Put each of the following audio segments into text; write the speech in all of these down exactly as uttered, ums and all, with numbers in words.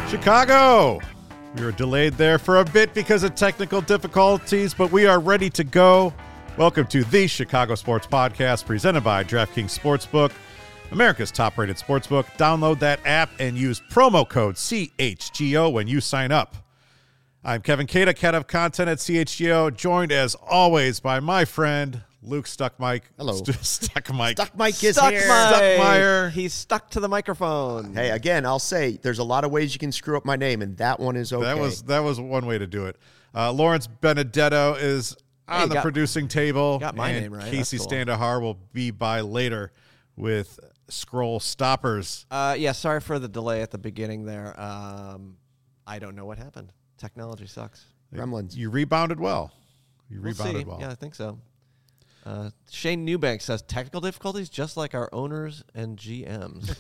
Chicago! We were delayed there for a bit because of technical difficulties, but we are ready to go. Welcome to the Chicago Sports Podcast, presented by DraftKings Sportsbook, America's top-rated sportsbook. Download that app and use promo code C H G O when you sign up. I'm Kevin Cada, head of content at C H G O, joined as always by my friend Luke Stuckmike. Hello. Stuckmike. Stuckmike is Stuck here. Stuckmeyer. He's stuck to the microphone. Hey, again, I'll say there's a lot of ways you can screw up my name, and that one is okay. That was that was one way to do it. Uh, Lawrence Benedetto is on Hey, the got- producing table. got my and name right. Casey That's cool. Standahar will be by later with Scroll Stoppers. Uh, yeah, sorry for the delay at the beginning there. Um, I don't know what happened. Technology sucks. Gremlins. You rebounded well. You We'll rebounded see. well. Yeah, I think so. Uh, Shane Newbank says technical difficulties just like our owners and G Ms.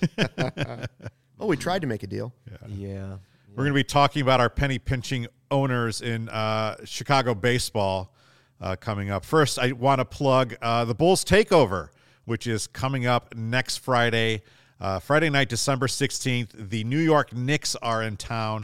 Oh, we tried to make a deal. yeah. We're going to be talking about our penny pinching owners in uh, Chicago baseball uh, coming up. First, I want to plug uh, the Bulls Takeover, which is coming up next Friday. Uh, Friday night, December sixteenth. The New York Knicks are in town.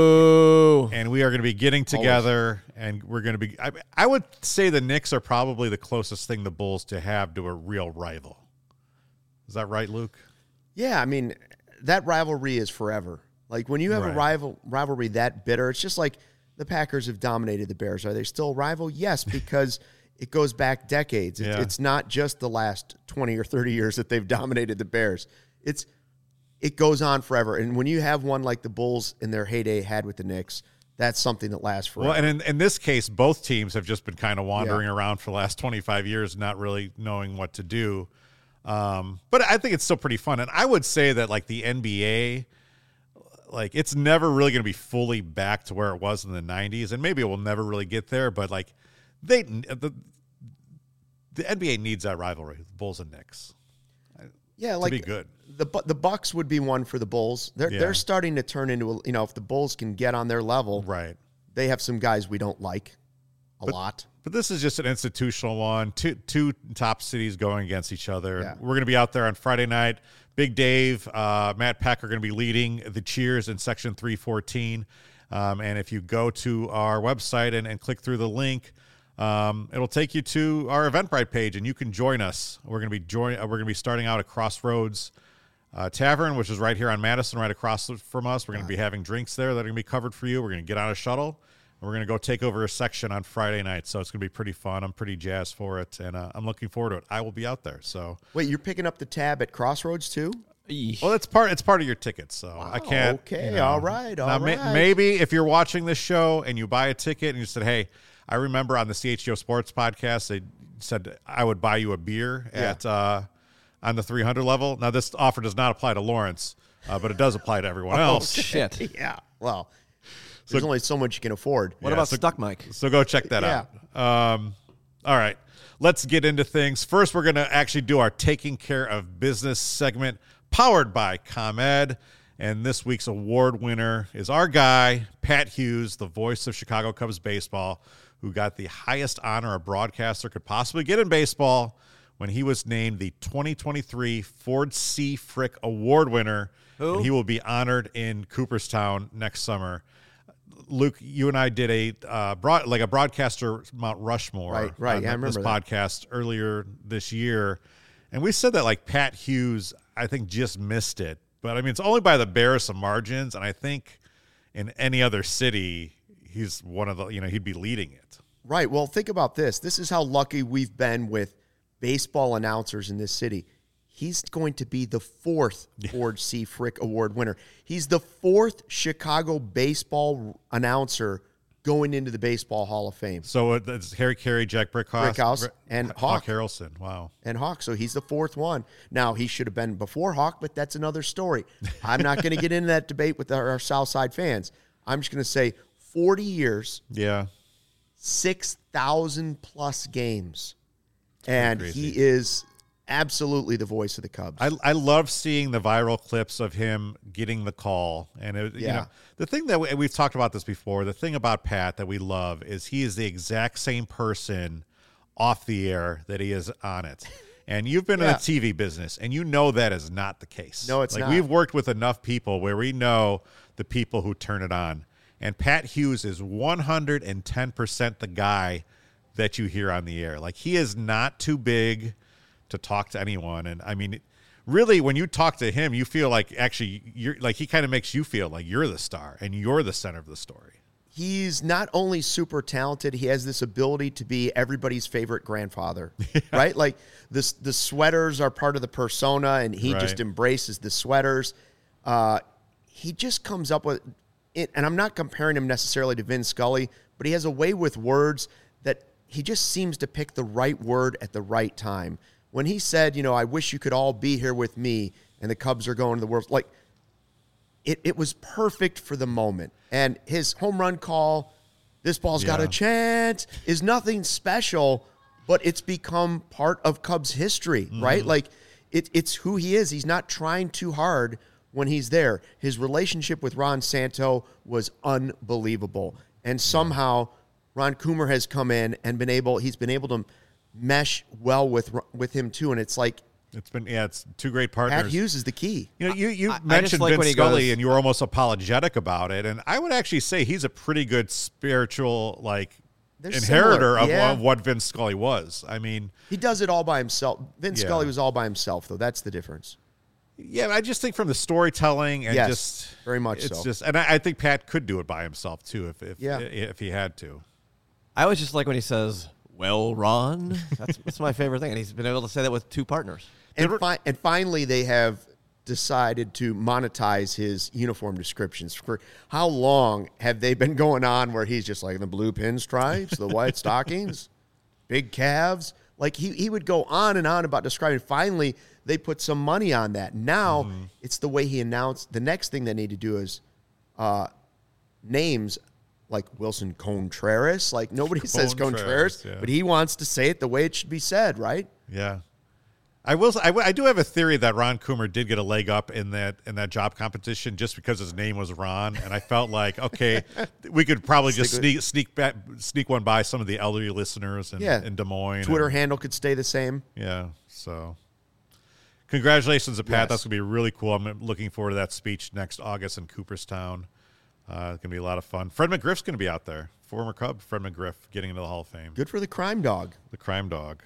Boo. And we are going to be getting together, and we're going to be. I, I would say the Knicks are probably the closest thing the Bulls to have to a real rival. Is that right, Luke? Yeah, I mean, that rivalry is forever. Like, when you have Right. a rival rivalry that bitter, it's just like the Packers have dominated the Bears. Are they still a rival? Yes, because it goes back decades. It's, Yeah. it's not just the last twenty or thirty years that they've dominated the Bears. It's It goes on forever. And when you have one like the Bulls in their heyday had with the Knicks, that's something that lasts forever. Well, and in, in this case, both teams have just been kind of wandering yeah. around for the last twenty-five years, not really knowing what to do. Um, but I think it's still pretty fun. And I would say that, like, the N B A, like, it's never really going to be fully back to where it was in the nineties. And maybe it will never really get there. But, like, they the, the N B A needs that rivalry, Bulls and Knicks. Yeah, like to be good. The the Bucks would be one for the Bulls. They're Yeah. they're starting to turn into a, you know, if the Bulls can get on their level, Right. they have some guys we don't like a But- lot. But this is just an institutional one. Two two top cities going against each other. Yeah. We're going to be out there on Friday night. Big Dave, uh, Matt Peck are going to be leading the cheers in Section three fourteen. Um, and if you go to our website and, and click through the link, um, it'll take you to our Eventbrite page, and you can join us. We're going to be join. Uh, we're going to be starting out at Crossroads uh, Tavern, which is right here on Madison, right across from us. We're going to be having drinks there that are going to be covered for you. We're going to get on a shuttle. We're going to go take over a section on Friday night, so it's going to be pretty fun. I'm pretty jazzed for it, and uh, I'm looking forward to it. I will be out there. So, Wait, you're picking up the tab at Crossroads too? Eesh. well, it's part it's part of your ticket, so I can't. Okay, you know. all right, all now, may- right. maybe if you're watching this show and you buy a ticket and you said, "Hey, I remember on the C H G O Sports podcast they said I would buy you a beer Yeah. at uh, on the three hundred level." Now, this offer does not apply to Lawrence, uh, but it does apply to everyone else. Shit. Yeah. Well, there's only so much you can afford. What Yeah, about so- Stuck Mike? So go check that Yeah. out. Um, all right. Let's get into things. First, we're going to actually do our Taking Care of Business segment powered by ComEd. And this week's award winner is our guy, Pat Hughes, the voice of Chicago Cubs baseball, who got the highest honor a broadcaster could possibly get in baseball when he was named the twenty twenty-three Ford C. Frick Award winner. Who? And he will be honored in Cooperstown next summer. Luke, you and I did a uh, broad, like a broadcaster Mount Rushmore Right, right. on Yeah, I this remember that. podcast earlier this year, and we said that like Pat Hughes, I think, just missed it. But I mean, it's only by the barest of margins, and I think in any other city, he's one of the you know he'd be leading it. Right. Well, think about this. This is how lucky we've been with baseball announcers in this city. He's going to be the fourth Ford C. Frick Award winner. He's the fourth Chicago baseball announcer going into the Baseball Hall of Fame. So it- it's Harry Carey, Jack Brickhouse, Brickhouse, and Hawk. Harrelson. Wow. And Hawk, so he's the fourth one. Now, he should have been before Hawk, but that's another story. I'm not going to get into that debate with our, our Southside fans. I'm just going to say forty years, Yeah. six thousand plus games, and crazy. he is absolutely the voice of the Cubs. I, I love seeing the viral clips of him getting the call. And, it, you Yeah. know, the thing that we, we've talked about this before, the thing about Pat that we love is he is the exact same person off the air that he is on it. And you've been in Yeah. the T V business, and you know that is not the case. No, it's like not. we've worked with enough people where we know the people who turn it on. And Pat Hughes is one hundred ten percent the guy that you hear on the air. Like, he is not too big to talk to anyone. And I mean, really, when you talk to him, you feel like actually you're like, he kind of makes you feel like you're the star and you're the center of the story. He's not only super talented, he has this ability to be everybody's favorite grandfather, yeah. right? Like this, the sweaters are part of the persona, and he right. just embraces the sweaters. Uh, he just comes up with it, and I'm not comparing him necessarily to Vin Scully, but he has a way with words that he just seems to pick the right word at the right time. When he said, you know, I wish you could all be here with me, and the Cubs are going to the World, like, It it was perfect for the moment. And his home run call, this ball's Yeah. got a chance, is nothing special, but it's become part of Cubs history, mm-hmm. right? Like, it, it's who he is. He's not trying too hard when he's there. His relationship with Ron Santo was unbelievable. And somehow Ron Coomer has come in and been able, he's been able to mesh well with with him too. And it's like, It's been, yeah, it's two great partners. Pat Hughes is the key. You know, you, you I- I mentioned just like Vin when he Scully, goes- and you were almost apologetic about it. And I would actually say he's a pretty good spiritual, like, They're inheritor similar, of, yeah. of what Vin Scully was. I mean, He does it all by himself. Vin Yeah. Scully was all by himself, though. That's the difference. yeah, I just think from the storytelling and Yes, just very much it's so. just, and I, I think Pat could do it by himself too if if, Yeah. if he had to. I always just like when he says, "Well, Ron." That's that's my favorite thing, and he's been able to say that with two partners. And, fi- and finally, they have decided to monetize his uniform descriptions. For how long have they been going on where he's just like the blue pinstripes, the white stockings, big calves? Like he, he would go on and on about describing. Finally, they put some money on that. Now Mm-hmm. it's the way he announced. The next thing they need to do is uh, names like Wilson Contreras. Like nobody says Contreras, Contreras, yeah. but he wants to say it the way it should be said, right? Yeah. I will. I, I do have a theory that Ron Coomer did get a leg up in that in that job competition just because his name was Ron, and I felt like okay, we could probably just Stick sneak sneak back, sneak one by some of the elderly listeners in, Yeah. in Des Moines. Twitter and, handle could stay the same. yeah. So, congratulations to Pat. Yes. That's gonna be really cool. I'm looking forward to that speech next August in Cooperstown. Uh, it's gonna be a lot of fun. Fred McGriff's gonna be out there. Former Cub Fred McGriff getting into the Hall of Fame. Good for the crime dog. The crime dog.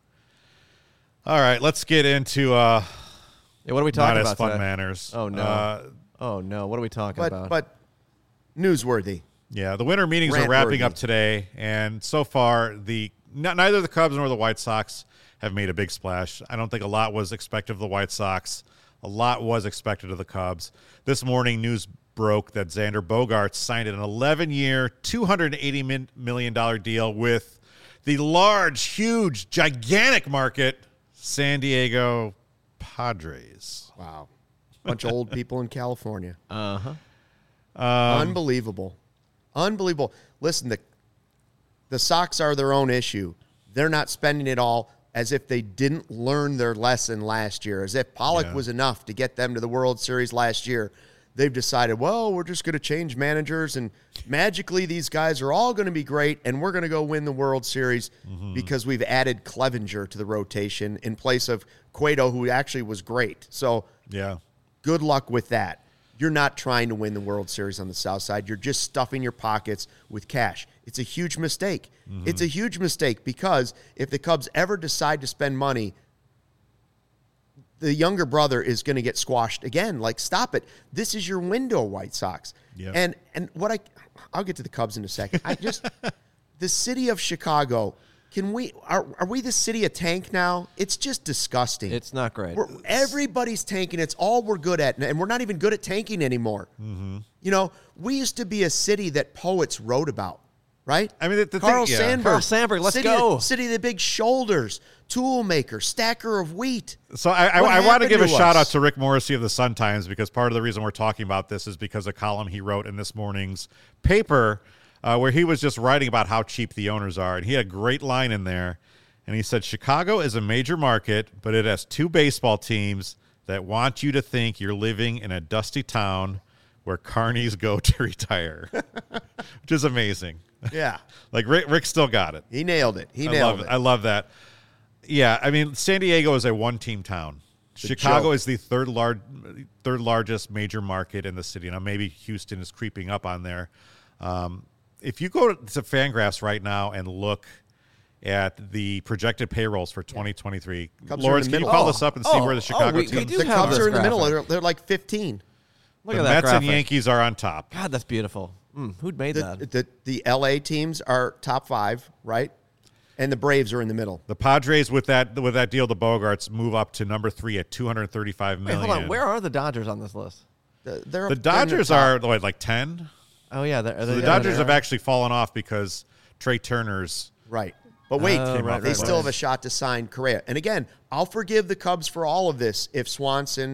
All right, let's get into uh, Yeah, what are we not talking as about fun today? manners. Oh no! Uh, oh no! What are we talking But about? but newsworthy. Yeah, the winter meetings are Rant wrapping worthy. up today, and so far, the n- neither the Cubs nor the White Sox have made a big splash. I don't think a lot was expected of the White Sox. A lot was expected of the Cubs. This morning, news broke that Xander Bogaerts signed an eleven-year, two hundred eighty million dollars deal with the large, huge, gigantic market San Diego Padres. Wow. Bunch of old people in California. uh huh. Um, Unbelievable. Unbelievable. Listen, the the Sox are their own issue. They're not spending it all as if they didn't learn their lesson last year, as if Pollock Yeah. was enough to get them to the World Series last year. They've decided, well, we're just going to change managers, and magically these guys are all going to be great, and we're going to go win the World Series Mm-hmm. because we've added Clevenger to the rotation in place of Cueto, who actually was great. So Yeah. good luck with that. You're not trying to win the World Series on the South Side. You're just stuffing your pockets with cash. It's a huge mistake. Mm-hmm. It's a huge mistake because if the Cubs ever decide to spend money, the younger brother is going to get squashed again. Like, stop it. This is your window, White Sox. Yep. And and what I, I'll get to the Cubs in a second. I just, the city of Chicago, can we, are, are we the city of tank now? It's just disgusting. It's not great. We're, everybody's tanking. It's all we're good at, and we're not even good at tanking anymore. Mm-hmm. You know, we used to be a city that poets wrote about, right? I mean, the, the Carl thing, yeah. Sandburg. Carl Sandburg, let's city go. Of, city of the big shoulders, tool maker, stacker of wheat. So I, I, What I want to happened give a to shout out us? to Rick Morrissey of the Sun-Times because part of the reason we're talking about this is because of a column he wrote in this morning's paper uh, where he was just writing about how cheap the owners are. And he had a great line in there. And he said, Chicago is a major market, but it has two baseball teams that want you to think you're living in a dusty town where carnies go to retire, which is amazing. Yeah. Like Rick, Rick still got it. He nailed it. He I nailed love it. I love that. Yeah, I mean, San Diego is a one-team town. It's a Chicago joke. is the third large, third largest major market in the city. Now, maybe Houston is creeping up on there. Um, if you go to Fangraphs right now and look at the projected payrolls for twenty twenty-three, Cubs are in Lawrence, the can you middle. call Oh, this up and see oh, where the oh, Chicago we- we teams? do The have Cubs this are in the graphic. middle. They're, they're like fifteen. Look the at that Mets graphic. and Yankees are on top. God, that's beautiful. Mm, who'd made The, that? the, the L A teams are top five, right? And the Braves are in the middle. The Padres with that with that deal, the Bogarts move up to number three at two hundred thirty-five Wait, million. hold on. Where are the Dodgers on this list? The, they're the up- they're in Dodgers top. are what, like ten? Oh yeah, they're, So they're, the yeah, Dodgers they're- have actually fallen off because Trey Turner's. Right. But wait, Oh, right, they right, still right. have a shot to sign Correa. And again, I'll forgive the Cubs for all of this if Swanson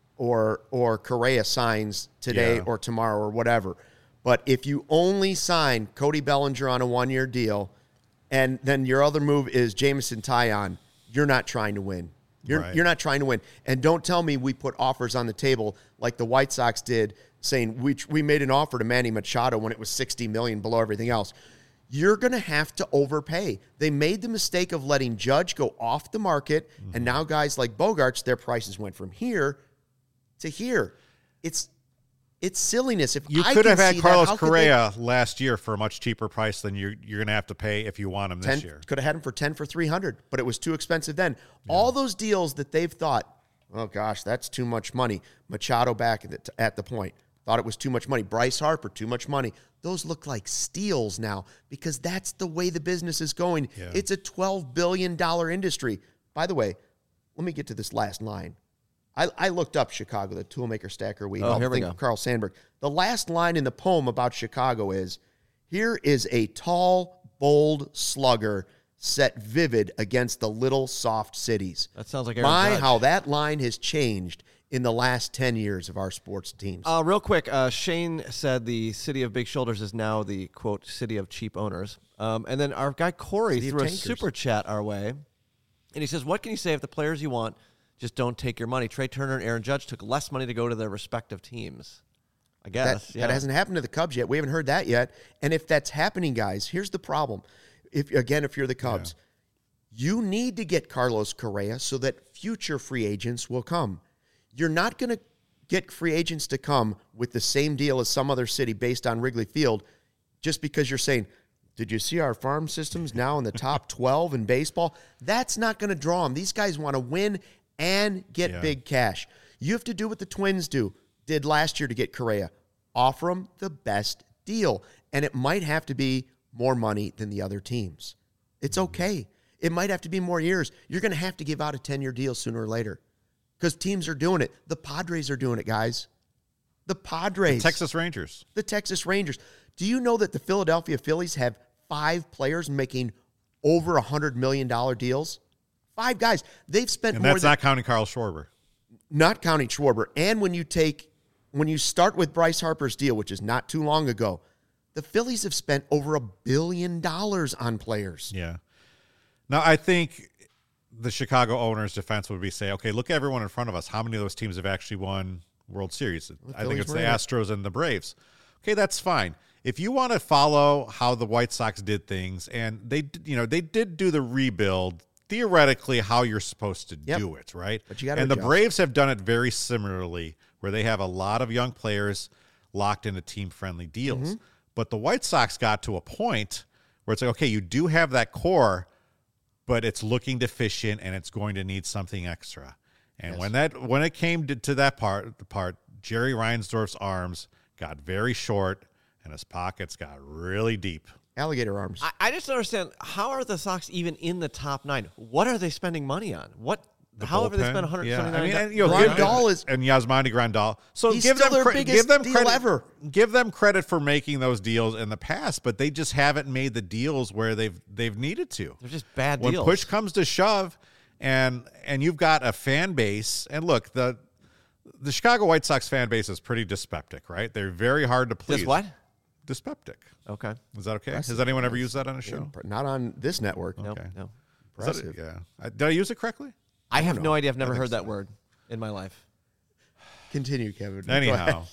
or or Correa signs today Yeah. or tomorrow or whatever. But if you only sign Cody Bellinger on a one-year deal, and then your other move is Jameson Taillon, you're not trying to win. You're Right. you're not trying to win. And don't tell me we put offers on the table like the White Sox did, saying we we made an offer to Manny Machado when it was sixty million dollars below everything else. You're going to have to overpay. They made the mistake of letting Judge go off the market, Mm-hmm. and now guys like Bogarts, their prices went from here to here. It's it's silliness. If You I could can have had see that, Carlos how could they- Correa last year for a much cheaper price than you're you're going to have to pay if you want him this ten, year. could have had him for ten for three hundred, but it was too expensive then. All those deals that they've thought, oh gosh, that's too much money. Machado back at the, at the point thought it was too much money. Bryce Harper, too much money. Those look like steals now because that's the way the business is going. Yeah. It's a twelve billion dollars industry. By the way, let me get to this last line. I, I looked up Chicago, the toolmaker stacker we Oh, all here we think go. of Carl Sandburg. The last line in the poem about Chicago is, here is a tall, bold slugger set vivid against the little soft cities. That sounds like Aaron My, Judge. how that line has changed in the last ten years of our sports teams. Uh, real quick, uh, Shane said the city of big shoulders is now the, quote, city of cheap owners. Um, and then our guy Corey City of threw a tankers. super chat our way. And he says, what can you say if the players you want just don't take your money? Trey Turner and Aaron Judge took less money to go to their respective teams. I that, guess. yeah. that hasn't happened to the Cubs yet. We haven't heard that yet. And if that's happening, guys, here's the problem. If again, if you're the Cubs, you need to get Carlos Correa so that future free agents will come. You're not going to get free agents to come with the same deal as some other city based on Wrigley Field just because you're saying, did you see our farm systems now in the top twelve in baseball? That's not going to draw them. These guys want to win and get Yeah. big cash. You have to do what the Twins do, did last year to get Correa. Offer them the best deal. And it might have to be more money than the other teams. It's okay. It might have to be more years. You're going to have to give out a ten-year deal sooner or later because teams are doing it. The Padres are doing it, guys. The Padres. Texas Rangers. The Texas Rangers. Do you know that the Philadelphia Phillies have five players making over one hundred million dollars deals? Five guys. They've spent And more that's than, not counting Carl Schwarber. not counting Schwarber. And when you take, when you start with Bryce Harper's deal, which is not too long ago, the Phillies have spent over a billion dollars on players. Yeah. Now, I think the Chicago owners' defense would be say, okay, look at everyone in front of us. How many of those teams have actually won World Series? I think Phillies it's the were in it. Astros and the Braves. Okay, that's fine. If you want to follow how the White Sox did things, and they, d- you know, they did do the rebuild theoretically how you're supposed to Yep. do it, right? But you gotta and the adjust. Braves have done it very similarly, where they have a lot of young players locked into team-friendly deals. Mm-hmm. But the White Sox got to a point where it's like, okay, you do have that core, but it's looking deficient and it's going to need something extra. And Yes. when that when it came to, to that part, the part, Jerry Reinsdorf's arms got very short and his pockets got really deep. Alligator arms. I, I just don't understand, how are the Sox even in the top nine? What are they spending money on? What? The how have they bullpen. spent one hundred Yeah, seventy-nine? I mean, and, you know, Grandal give, is- and Yasmani Grandal. So He's give still them their cre- biggest give them deal credit ever. Give them credit for making those deals in the past, but they just haven't made the deals where they've they've needed to. They're just bad When deals. push comes to shove, and and you've got a fan base, and look, the the Chicago White Sox fan base is pretty dyspeptic, right? They're very hard to please. Just what? Dyspeptic. Okay. Is that okay? Has anyone ever used that on a show? Not on this network. No, Okay. no. Is that- Impressive. yeah. I- Did I use it correctly? I have know. no idea. I've never think heard that so. word in my life. Continue, Kevin. Go Anyhow,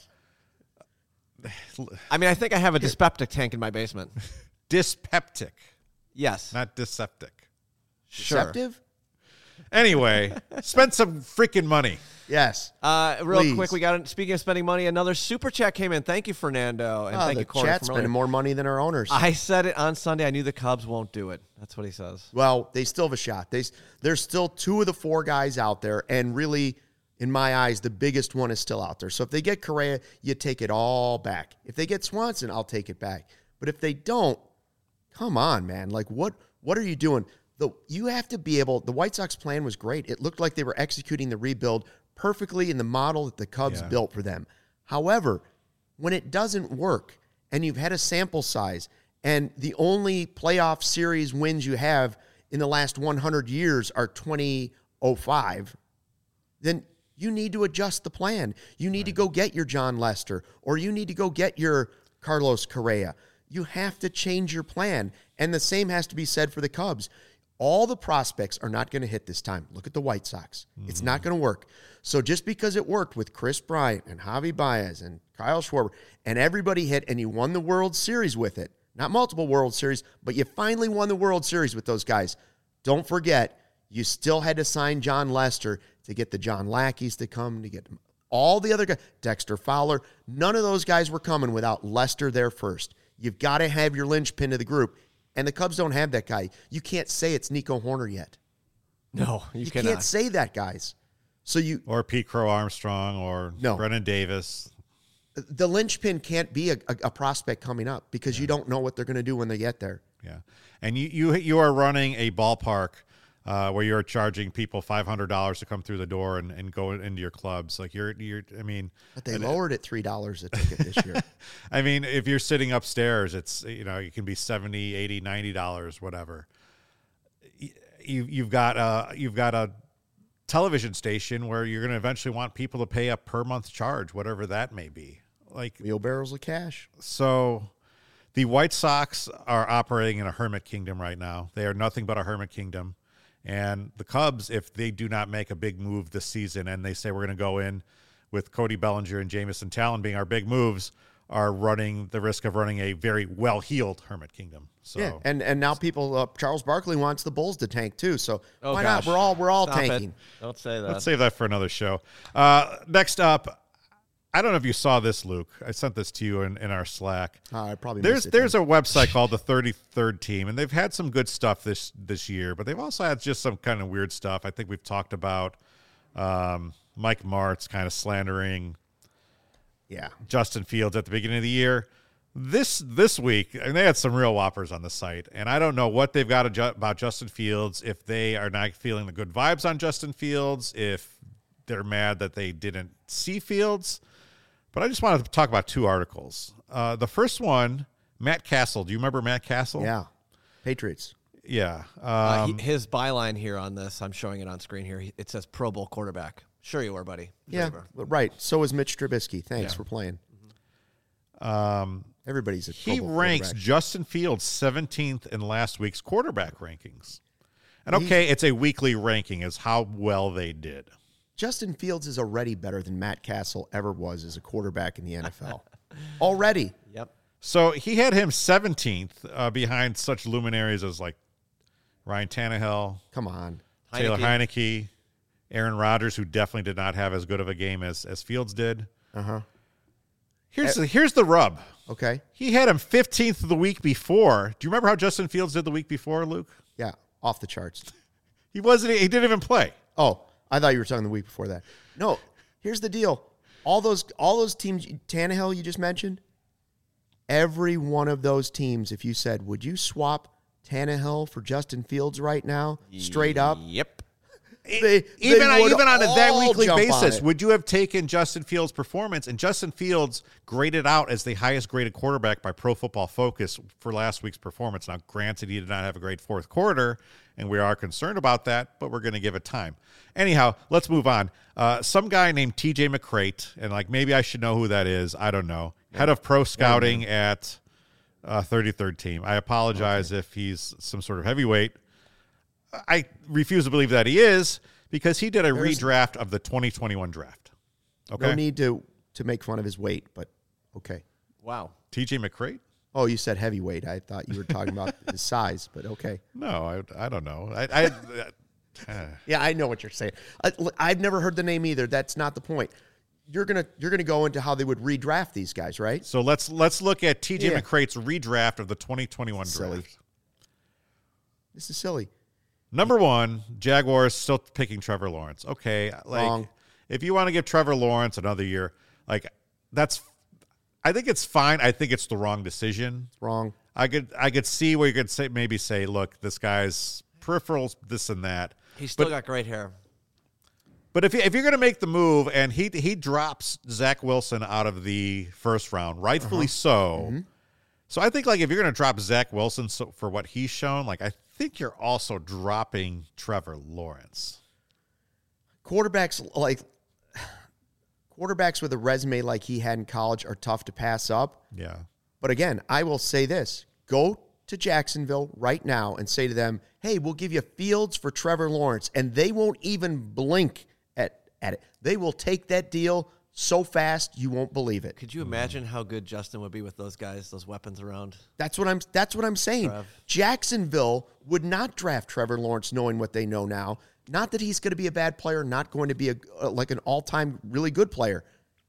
ahead. I mean, I think I have a dyspeptic tank in my basement. dyspeptic, Yes. not dyspeptic. Sure. Deceptive? Anyway, spend some freaking money. Yes. Uh, real Please. quick, we got speaking of spending money, another super chat came in. Thank you, Fernando, and Oh, thank the you, Corey. chat's from earlier. spending more money than our owners. I said it on Sunday. I knew the Cubs won't do it. That's what he says. Well, they still have a shot. They, there's still two of the four guys out there, and really, in my eyes, the biggest one is still out there. So if they get Correa, you take it all back. If they get Swanson, I'll take it back. But if they don't, come on, man. Like, what what are you doing? The, you have to be able – the White Sox plan was great. It looked like they were executing the rebuild perfectly in the model that the Cubs Yeah. built for them. However, when it doesn't work and you've had a sample size and the only playoff series wins you have in the last one hundred years are twenty oh five, then you need to adjust the plan. You need to go get your John Lester, or you need to go get your Carlos Correa. You have to change your plan. And the same has to be said for the Cubs. All the prospects are not going to hit this time. Look at the White Sox. Mm-hmm. It's not going to work. So just because it worked with Chris Bryant and Javi Baez and Kyle Schwarber and everybody hit and you won the World Series with it, not multiple World Series, but you finally won the World Series with those guys. Don't forget, you still had to sign John Lester to get the John Lackeys to come, to get all the other guys, Dexter Fowler. None of those guys were coming without Lester there first. You've got to have your linchpin to the group. And the Cubs don't have that guy. You can't say it's Nico Horner yet. No, you, You cannot. can't say that, guys. So you Or Pete Crow Armstrong or No. Brennan Davis. the linchpin can't be a, a, a prospect coming up because you don't know what they're going to do when they get there. Yeah. And you you you are running a ballpark uh, where you're charging people five hundred dollars to come through the door and, and go into your clubs. Like you're you're I mean, But they lowered it three dollars a ticket this year. I mean, if you're sitting upstairs, it's, you know, it can be seventy, eighty, ninety dollars, whatever. You you've got a you've got a television station where you're going to eventually want people to pay a per month charge, whatever that may be. Like, Wheelbarrows of cash. so the White Sox are operating in a hermit kingdom right now. They are nothing but a hermit kingdom. And the Cubs, if they do not make a big move this season and they say we're going to go in with Cody Bellinger and Jamison Talon being our big moves, are running the risk of running a very well-heeled hermit kingdom. So Yeah, and and now people, uh, Charles Barkley wants the Bulls to tank too. So Oh, why gosh. not? We're all we're all Stop it. tanking. Don't say that. let's save that for another show. Uh, next up, I don't know if you saw this, Luke. I sent this to you in, in our Slack. Oh, I probably There's missed it there's then. a website called the thirty-third Team, and they've had some good stuff this this year, but they've also had just some kind of weird stuff. I think we've talked about um, Mike Martz kind of slandering yeah. Justin Fields at the beginning of the year. This this week, and they had some real whoppers on the site, and I don't know what they've got adju- about Justin Fields, if they are not feeling the good vibes on Justin Fields, if they're mad that they didn't see Fields. But I just wanted to talk about two articles. Uh, the first one, Matt Castle. Do you remember Matt Castle? Yeah. Patriots. Yeah. Uh, Um, he, his byline here on this, I'm showing it on screen here. He- It says Pro Bowl quarterback. Sure you were, buddy. Sure Yeah, you were. right. So is Mitch Trubisky. Thanks Yeah. for playing. um, Everybody's a Pro he Bowl ranks quarterback. Justin Fields seventeenth in last week's quarterback rankings. And okay, it's a weekly ranking, is how well they did. Justin Fields is already better than Matt Castle ever was as a quarterback in the N F L. Already. Yep. So he had him seventeenth uh, behind such luminaries as like Ryan Tannehill, Come on. Taylor Heineke. Heineke, Aaron Rodgers, who definitely did not have as good of a game as, as Fields did. Uh-huh. Here's the, here's the rub. Okay. He had him fifteenth the week before. Do you remember how Justin Fields did the week before, Luke? Yeah. Off the charts. He wasn't. He didn't even play. Oh, I thought you were talking the week before that. No, here's the deal. All those all those teams, Tannehill you just mentioned, every one of those teams, if you said, would you swap Tannehill for Justin Fields right now, straight up? Yep. They, Even they on, would even on a, that all weekly jump on basis, it. would you have taken Justin Fields' performance? And Justin Fields graded out as the highest graded quarterback by Pro Football Focus for last week's performance. Now, granted, he did not have a great fourth quarter, and we are concerned about that, but we're going to give it time. Anyhow, let's move on. Uh, some guy named T J McCrate, and like maybe I should know who that is. I don't know. Head of pro scouting at uh, thirty-third Team. I apologize okay. if he's some sort of heavyweight. I refuse to believe that he is, because he did a There's, redraft of the twenty twenty-one draft. Okay. No need to, to make fun of his weight, but okay. Wow. T J McCrate? Oh, you said heavyweight. I thought you were talking about his size, but okay. No, I, I don't know. I, I Yeah, I know what you're saying. I, I've never heard the name either. That's not the point. You're gonna you're gonna go into how they would redraft these guys, right? So let's let's look at T J Yeah. McCrate's redraft of the twenty twenty-one Silly. draft. This is silly. Number one, Jaguars still picking Trevor Lawrence. Okay, like Wrong. if you want to give Trevor Lawrence another year, like that's, I think it's fine. I think it's the wrong decision. Wrong. I could I could see where you could say maybe say, look, this guy's peripherals, this and that. He's still But- got great hair. But if you, if you're going to make the move and he he drops Zach Wilson out of the first round, rightfully so. So I think like if you're going to drop Zach Wilson so, for what he's shown, like I think you're also dropping Trevor Lawrence. Quarterbacks like quarterbacks with a resume like he had in college are tough to pass up. Yeah. But again, I will say this. Go to Jacksonville right now and say to them, hey, we'll give you Fields for Trevor Lawrence. And they won't even blink at, at it. They will take that deal so fast you won't believe it. Could you imagine how good Justin would be with those guys, those weapons around? That's what I'm that's what I'm saying. Trev. Jacksonville would not draft Trevor Lawrence knowing what they know now. Not that he's going to be a bad player, not going to be a like an all-time really good player.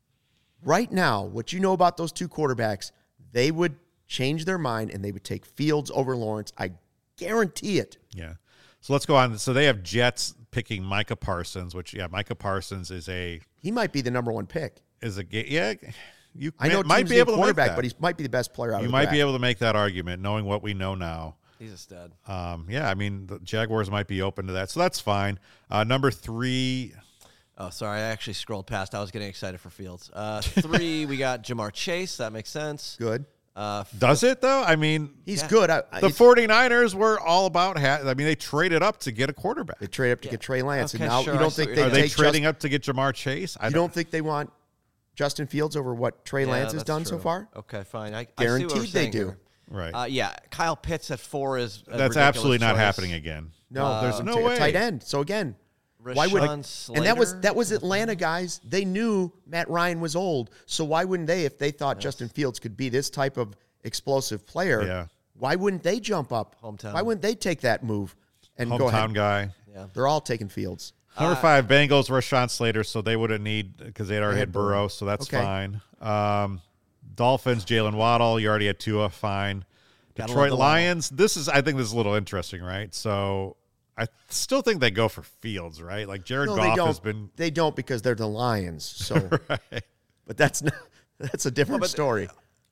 Right now, what you know about those two quarterbacks, they would change their mind and they would take Fields over Lawrence. I guarantee it. Yeah. So let's go on. So they have Jets picking Micah Parsons, which yeah, Micah Parsons is a He might be the number one pick. is a ga- yeah. You I know might teams be need able to make quarterback, that. but he might be the best player out You of the might draft. be able to make that argument, knowing what we know now. He's a stud. Um, yeah, I mean the Jaguars might be open to that, so that's fine. Uh, number three, Oh, sorry. I actually scrolled past. I was getting excited for Fields. Uh, three, we got Jamar Chase. That makes sense. Good. Uh, does it though? I mean, He's Yeah. good. I, I, the 49ers were all about. Ha- I mean, they traded up to get a quarterback. they trade up to get Trey Lance, Okay, and now sure, you I don't see think what they you're Are they take trading Just- up to get Jamar Chase? I You don't think they want Justin Fields over what Trey yeah, Lance has that's done so true. far? Okay, fine. I, I see what Guaranteed we're they saying do. here. Right. Uh, yeah, Kyle Pitts at four is a That's ridiculous absolutely not choice. happening again. No, Uh, there's no no way. tight end. So again, why would Rashawn and that was Slater? that was Atlanta guys. They knew Matt Ryan was old, so why wouldn't they if they thought Justin Fields could be this type of explosive player? Yeah. Why wouldn't they jump up? Hometown. Why wouldn't they take that move and go Hometown ahead? guy. Yeah. They're all taking Fields. Number five, Bengals, Rashawn Slater, so they wouldn't need because they'd already They had had Burrow, Burrow. so that's Okay. fine. Um, Dolphins, Jalen Waddle, you already had Tua, fine. Gotta Detroit love the Waddle. Lions, this is I think this is a little interesting, right? So I still think they go for Fields, right? Like Jared No, they Goff don't. has been They don't because they're the Lions. So, right. but that's not. That's a different but- story.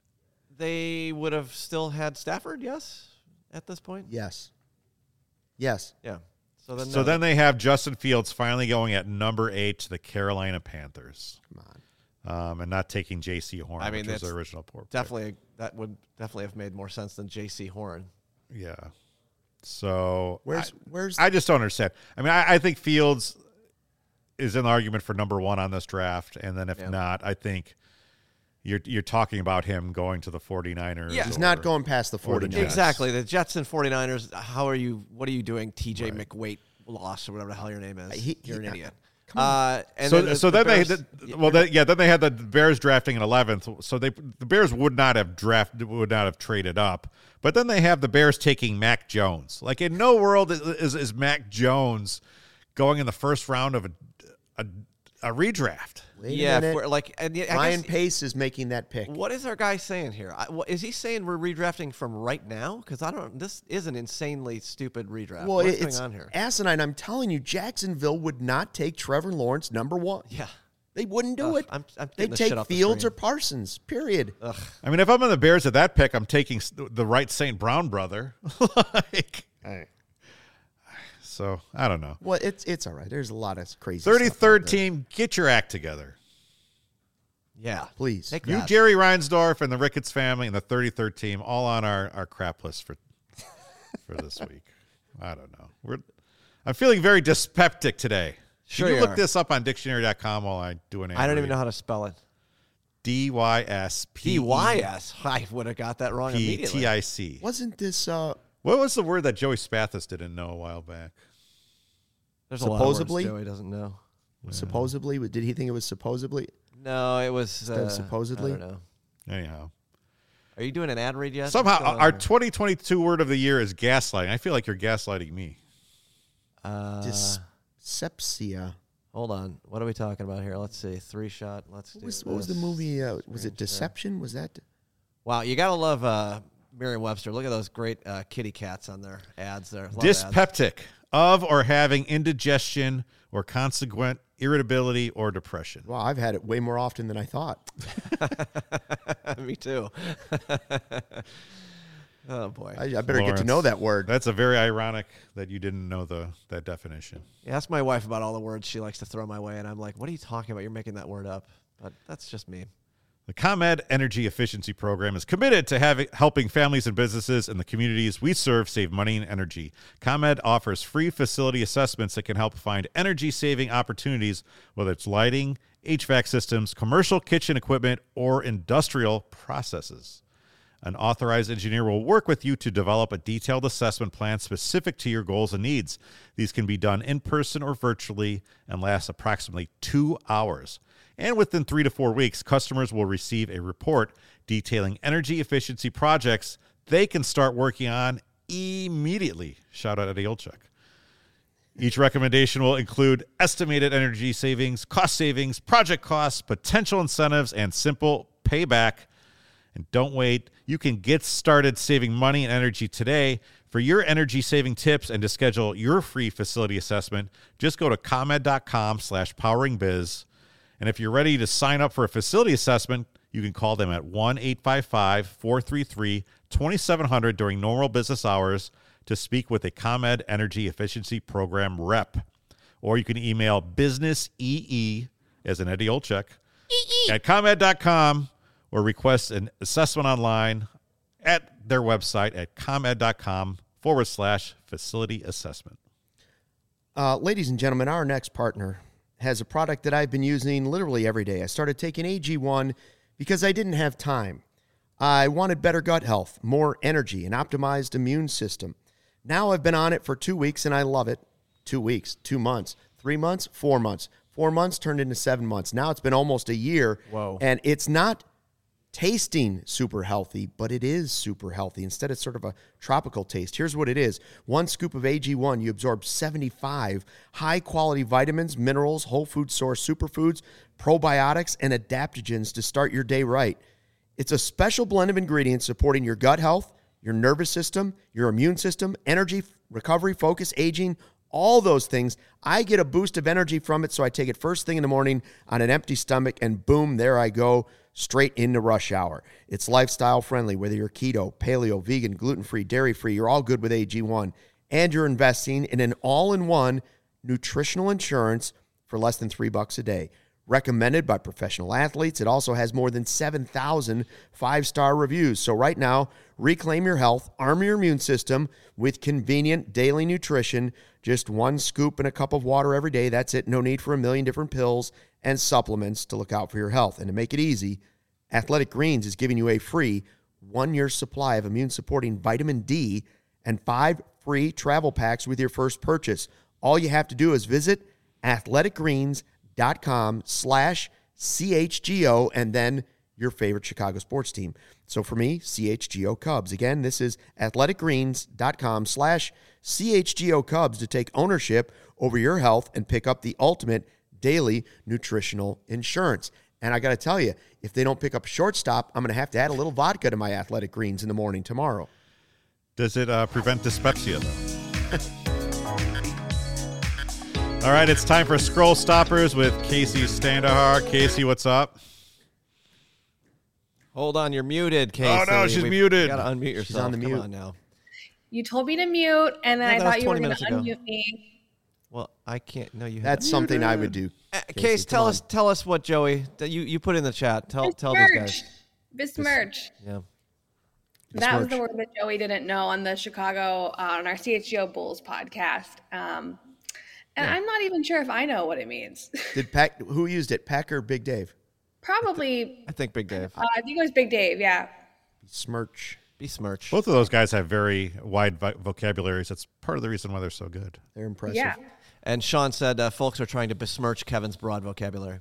They would have still had Stafford, yes, at this point? Yes. Yes. Yeah. So then, So no. then they have Justin Fields finally going at number eight to the Carolina Panthers, Come on. um, and not taking J C Horn, I mean, which was that's their original poor pick. definitely that would definitely have made more sense than J C Horn. Yeah. So Where's I, where's I just don't understand. I mean, I, I think Fields is in the argument for number one on this draft, and then if Yeah. not, I think you're you're talking about him going to the 49ers. Yeah. he's or- not going past the or the 49ers. Jets. Exactly. The Jets and 49ers, how are you, what are you doing, T J McWait loss or whatever the hell your name is? He- You're he- an idiot. come on. Uh, and so then the, so the then they Bears- the, well they, yeah then they had the Bears drafting in eleventh, so they the Bears would not have drafted would not have traded up, but then they have the Bears taking Mac Jones. Like in no world is is, is Mac Jones going in the first round of a a, a redraft. Wait a yeah, minute. for, like, and the- I Ryan guess, Pace is making that pick. what is our guy saying here? I, what, is he saying we're redrafting from right now? Because I don't. This is an insanely stupid redraft. Well, What's it's going on here? asinine. I'm telling you, Jacksonville would not take Trevor Lawrence number one. Yeah. They wouldn't do Ugh, it. I'm- I'm They'd getting the shit take off the Fields or screen. Parsons, period. Ugh. I mean, if I'm on the Bears at that pick, I'm taking s- the right Saint Brown brother. like, so I don't know. Well, it's it's all right. There's a lot of crazy stuff out thirty-third there. team, get your act together. Yeah. Please. Take You, that. Jerry Reinsdorf, and the Ricketts family, and the thirty-third team, all on our, our crap list for for this week. I don't know. We're I'm feeling very dyspeptic today. Sure Can you you look are. this up on dictionary dot com while I do an I don't even know how to spell it. D Y S P D Y S. I would have got that wrong P immediately. T I C. Wasn't this uh, What was the word that Joey Spathis didn't know a while back? There's Supposedly? a lot of words Joey doesn't know. supposedly? Did he think it was supposedly? No, it was Instead of uh, supposedly? I don't know. Anyhow. Are you doing an ad read yet? Somehow, What's going on our here? twenty twenty-two word of the year is gaslighting. I feel like you're gaslighting me. Uh, Dyspepsia. hold on. What are we talking about here? Let's see. Three shot. Let's What do was, what was the this. movie? Uh, was Screen it share. Deception? Was that? Wow, you gotta love uh, Merriam-Webster. Look at those great uh, kitty cats on their ads there. Love ads. Dyspeptic, of or having indigestion or consequent irritability or depression. Wow, I've had it way more often than I thought. Me too. Oh boy. I, I better get to Lawrence. know that word. That's a very ironic that you didn't know the that definition. Yeah, ask my wife about all the words she likes to throw my way, and I'm like, "What are you talking about? You're making that word up." But that's just me. The ComEd Energy Efficiency Program is committed to having, helping families and businesses in the communities we serve save money and energy. ComEd offers free facility assessments that can help find energy-saving opportunities, whether it's lighting, H V A C systems, commercial kitchen equipment, or industrial processes. An authorized engineer will work with you to develop a detailed assessment plan specific to your goals and needs. These can be done in person or virtually and last approximately two hours. And within three to four weeks, customers will receive a report detailing energy efficiency projects they can start working on immediately. Shout out Eddie Olchuk. Each recommendation will include estimated energy savings, cost savings, project costs, potential incentives, and simple payback. And don't wait. You can get started saving money and energy today. For your energy saving tips and to schedule your free facility assessment, just go to ComEd.com slash poweringbiz. And if you're ready to sign up for a facility assessment, you can call them at one eight five five, four three three, two seven zero zero during normal business hours to speak with a ComEd Energy Efficiency Program rep. Or you can email businessee, as in Eddie Olchuk, at ComEd dot com or request an assessment online at their website at ComEd.com forward slash facility assessment. Uh, ladies and gentlemen, our next partner has a product that I've been using literally every day. I started taking A G one because I didn't have time. I wanted better gut health, more energy, an optimized immune system. Now I've been on it for two weeks and I love it. Two weeks, two months, three months, four months. Four months turned into seven months. Now it's been almost a year. Whoa. And it's not tasting super healthy, but it is super healthy. Instead, it's sort of a tropical taste. Here's what it is. One scoop of A G one, you absorb seventy-five high-quality vitamins, minerals, whole food source superfoods, probiotics, and adaptogens to start your day right. It's a special blend of ingredients supporting your gut health, your nervous system, your immune system, energy, recovery, focus, aging, all those things. I get a boost of energy from it, so I take it first thing in the morning on an empty stomach, and boom, there I go, straight into rush hour. It's lifestyle friendly, whether you're keto, paleo, vegan, gluten-free, dairy-free, you're all good with A G one. And you're investing in an all-in-one nutritional insurance for less than three bucks a day. Recommended by professional athletes. It also has more than seven thousand five-star reviews. So right now, reclaim your health, arm your immune system with convenient daily nutrition. Just one scoop and a cup of water every day. That's it. No need for a million different pills and supplements to look out for your health. And to make it easy, Athletic Greens is giving you a free one-year supply of immune-supporting vitamin D and five free travel packs with your first purchase. All you have to do is visit athleticgreens.com slash CHGO and then your favorite Chicago sports team. So for me, C H G O Cubs. Again, this is athleticgreens.com slash CHGO Cubs to take ownership over your health and pick up the ultimate daily nutritional insurance. And I got to tell you, if they don't pick up shortstop, I'm going to have to add a little vodka to my Athletic Greens in the morning tomorrow. Does it uh, prevent dyspepsia, though? All right, it's time for Scroll Stoppers with Casey Standahar. Casey, what's up? Hold on, you're muted, Casey. Oh, no, she's We've muted. Got to unmute yourself. She's on the Come mute. on now. You told me to mute, and then Yeah, I that was thought you were twenty going to minutes ago. unmute me. Well, I can't. No, you. That's have something I would do. Uh, Casey, Case, come tell on. us, tell us what Joey that you you put in the chat. Tell tell these guys. Besmirch. Yeah. That was the Besmirch. word that Joey didn't know on the Chicago, uh, on our C H G O Bulls podcast. Um, and I'm not even sure if I know what it means. Did Pack, who used it, Pack or Big Dave? Probably, I think Big Dave. uh, I think it was Big Dave, yeah. Smirch. Besmirch. Both of those guys have very wide vo- vocabularies. That's part of the reason why they're so good. They're impressive. Yeah. And Sean said uh, folks are trying to besmirch Kevin's broad vocabulary.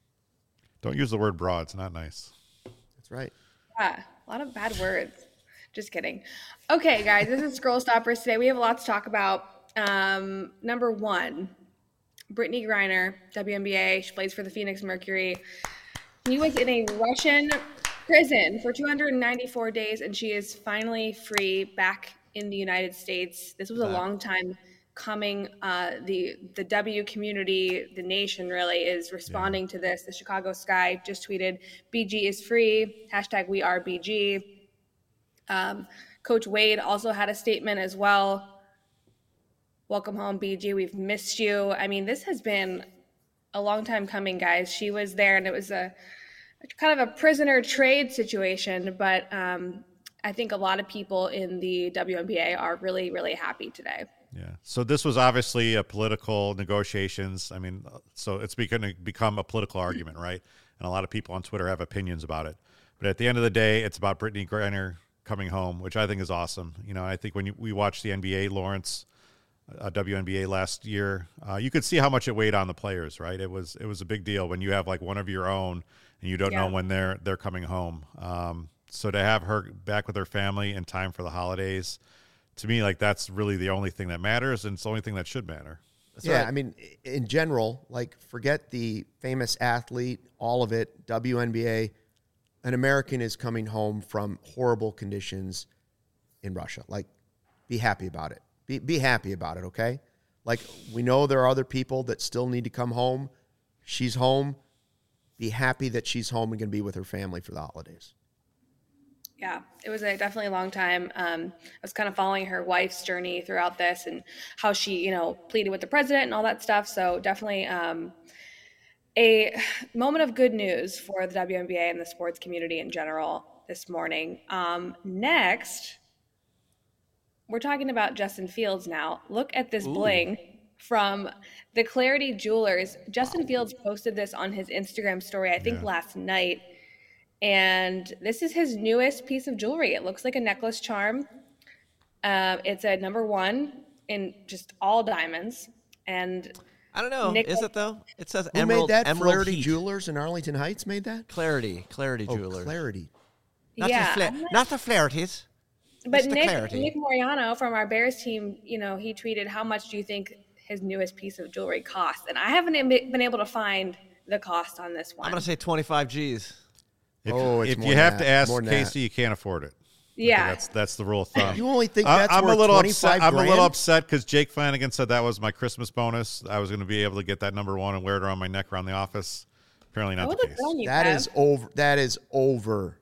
Don't use the word broad. It's not nice. That's right. Yeah, a lot of bad words. Just kidding. Okay, guys, this is Scroll Stoppers today. We have a lot to talk about. Um, number one, Brittany Griner, W N B A. She plays for the Phoenix Mercury. She was in a Russian prison for two hundred ninety-four days, and she is finally free back in the United States. This was a long time coming. Uh, the the W community, the nation really is responding yeah. to this. The Chicago Sky just tweeted, B G is free, hashtag we are B G. Um, Coach Wade also had a statement as well. Welcome home, B G. We've missed you. I mean, this has been a long time coming, guys. She was there, and it was a kind of a prisoner trade situation, but um, I think a lot of people in the W N B A are really, really happy today. Yeah. So this was obviously a political negotiations. I mean, so it's going to become a political argument, right? And a lot of people on Twitter have opinions about it. But at the end of the day, it's about Brittany Griner coming home, which I think is awesome. You know, I think when you, we watched the N B A, Lawrence, uh, W N B A last year, uh, you could see how much it weighed on the players, right? It was it was a big deal when you have like one of your own and you don't yeah. know when they're they're coming home. Um, so to have her back with her family in time for the holidays, to me, like that's really the only thing that matters, and it's the only thing that should matter. That's yeah, right. I mean, in general, like forget the famous athlete, all of it, W N B A. An American is coming home from horrible conditions in Russia. Like, be happy about it. Be be happy about it, okay? Like, we know there are other people that still need to come home. She's home. Be happy that she's home and going to be with her family for the holidays. Yeah, it was a definitely a long time. Um, I was kind of following her wife's journey throughout this and how she, you know, pleaded with the president and all that stuff. So definitely um, a moment of good news for the W N B A and the sports community in general this morning. Um, next, we're talking about Justin Fields now. Look at this Ooh. bling from the Clarity Jewelers. Justin Fields posted this on his Instagram story, I think yeah. last night. And this is his newest piece of jewelry. It looks like a necklace charm. Uh, it's a number one in just all diamonds. And I don't know. Nick- is it though? It says Who Emerald. made that? Emerald Clarity Heat. Jewelers in Arlington Heights made that? Clarity. Clarity oh, Jewelers. Clarity. Not yeah. The fla- not the Clarities. But it's Nick, Clarity. Nick Moriano from our Bears team, you know, he tweeted, how much do you think his newest piece of jewelry costs? And I haven't been able to find the cost on this one. I'm going to say twenty-five G's. If, oh, it's if more you than have that. to ask More than Casey, that. you can't afford it. Yeah, that's that's the rule of thumb. You only think that's I'm worth a little twenty-five upset. I'm grand? a little upset because Jake Flanagan said that was my Christmas bonus. I was going to be able to get that number one and wear it around my neck around the office. Apparently not the case. You, that Kev. is over. That is over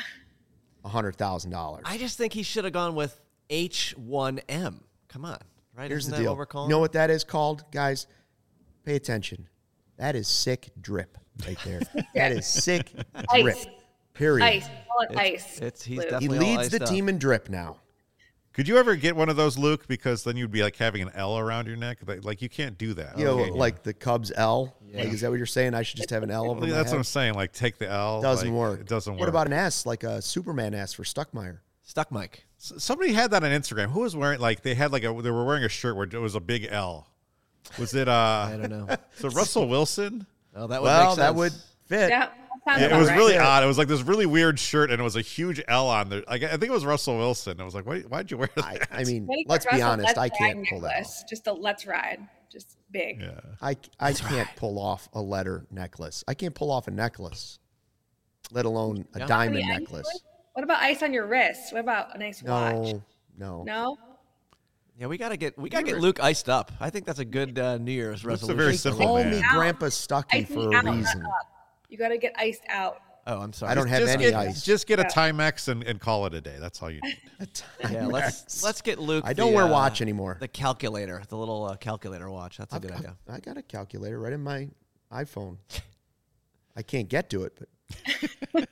a hundred thousand dollars. I just think he should have gone with H one M. Come on, right? Here's Isn't the that deal. What we're calling you know it? what that is called, guys? Pay attention. That is sick drip right there. That is sick drip. Ice. Period. Ice. Call it It's, ice. it's he's Luke. He definitely all leads the iced team up. in drip now. Could you ever get one of those, Luke? Because then you'd be like having an L around your neck. Like, like you can't do that. You know, Okay. like the Cubs L. Yeah. Like, is that what you're saying? I should just have an L over Well, my that's head? what I'm saying. Like, take the L. Doesn't like, work. It doesn't work. What about an S, like a Superman S for Stuckmeyer? Stuck Mike. S- Somebody had that on Instagram. Who was wearing like they had like a they were wearing a shirt where it was a big L. Was it? uh I don't know. So Russell Wilson. Oh, that would Well, make that sense. would fit. Yeah, that sounds Yeah, about it was right. really odd. It was like this really weird shirt, and it was a huge L on there. Like I think it was Russell Wilson. I was like, why? Why'd you wear that? I, I mean, What do you let's get be Russell honest. Let's I Ride can't pull that off. necklace? Just a let's ride. Just big. yeah. I, I can't pull off a letter necklace. I can't pull off a necklace, let alone a Yeah. diamond Any ice necklace. on- What about ice on your wrist? What about a nice watch? No, no. No? Yeah, we gotta get we gotta get Luke iced up. I think that's a good uh, New Year's Luke's a resolution. very They simple call man. me Out. Grandpa Stucky Ice for me a out, not reason. up. You got to get iced out. Oh, I'm sorry. I don't have just any get, ice. Just get a Yeah. Timex and, and call it a day. That's all you need. Yeah, let's let's get Luke. I don't the, wear uh, watch anymore. The calculator, the little uh, calculator watch. That's a I've- good I've- idea. I got a calculator right in my iPhone. I can't get to it, but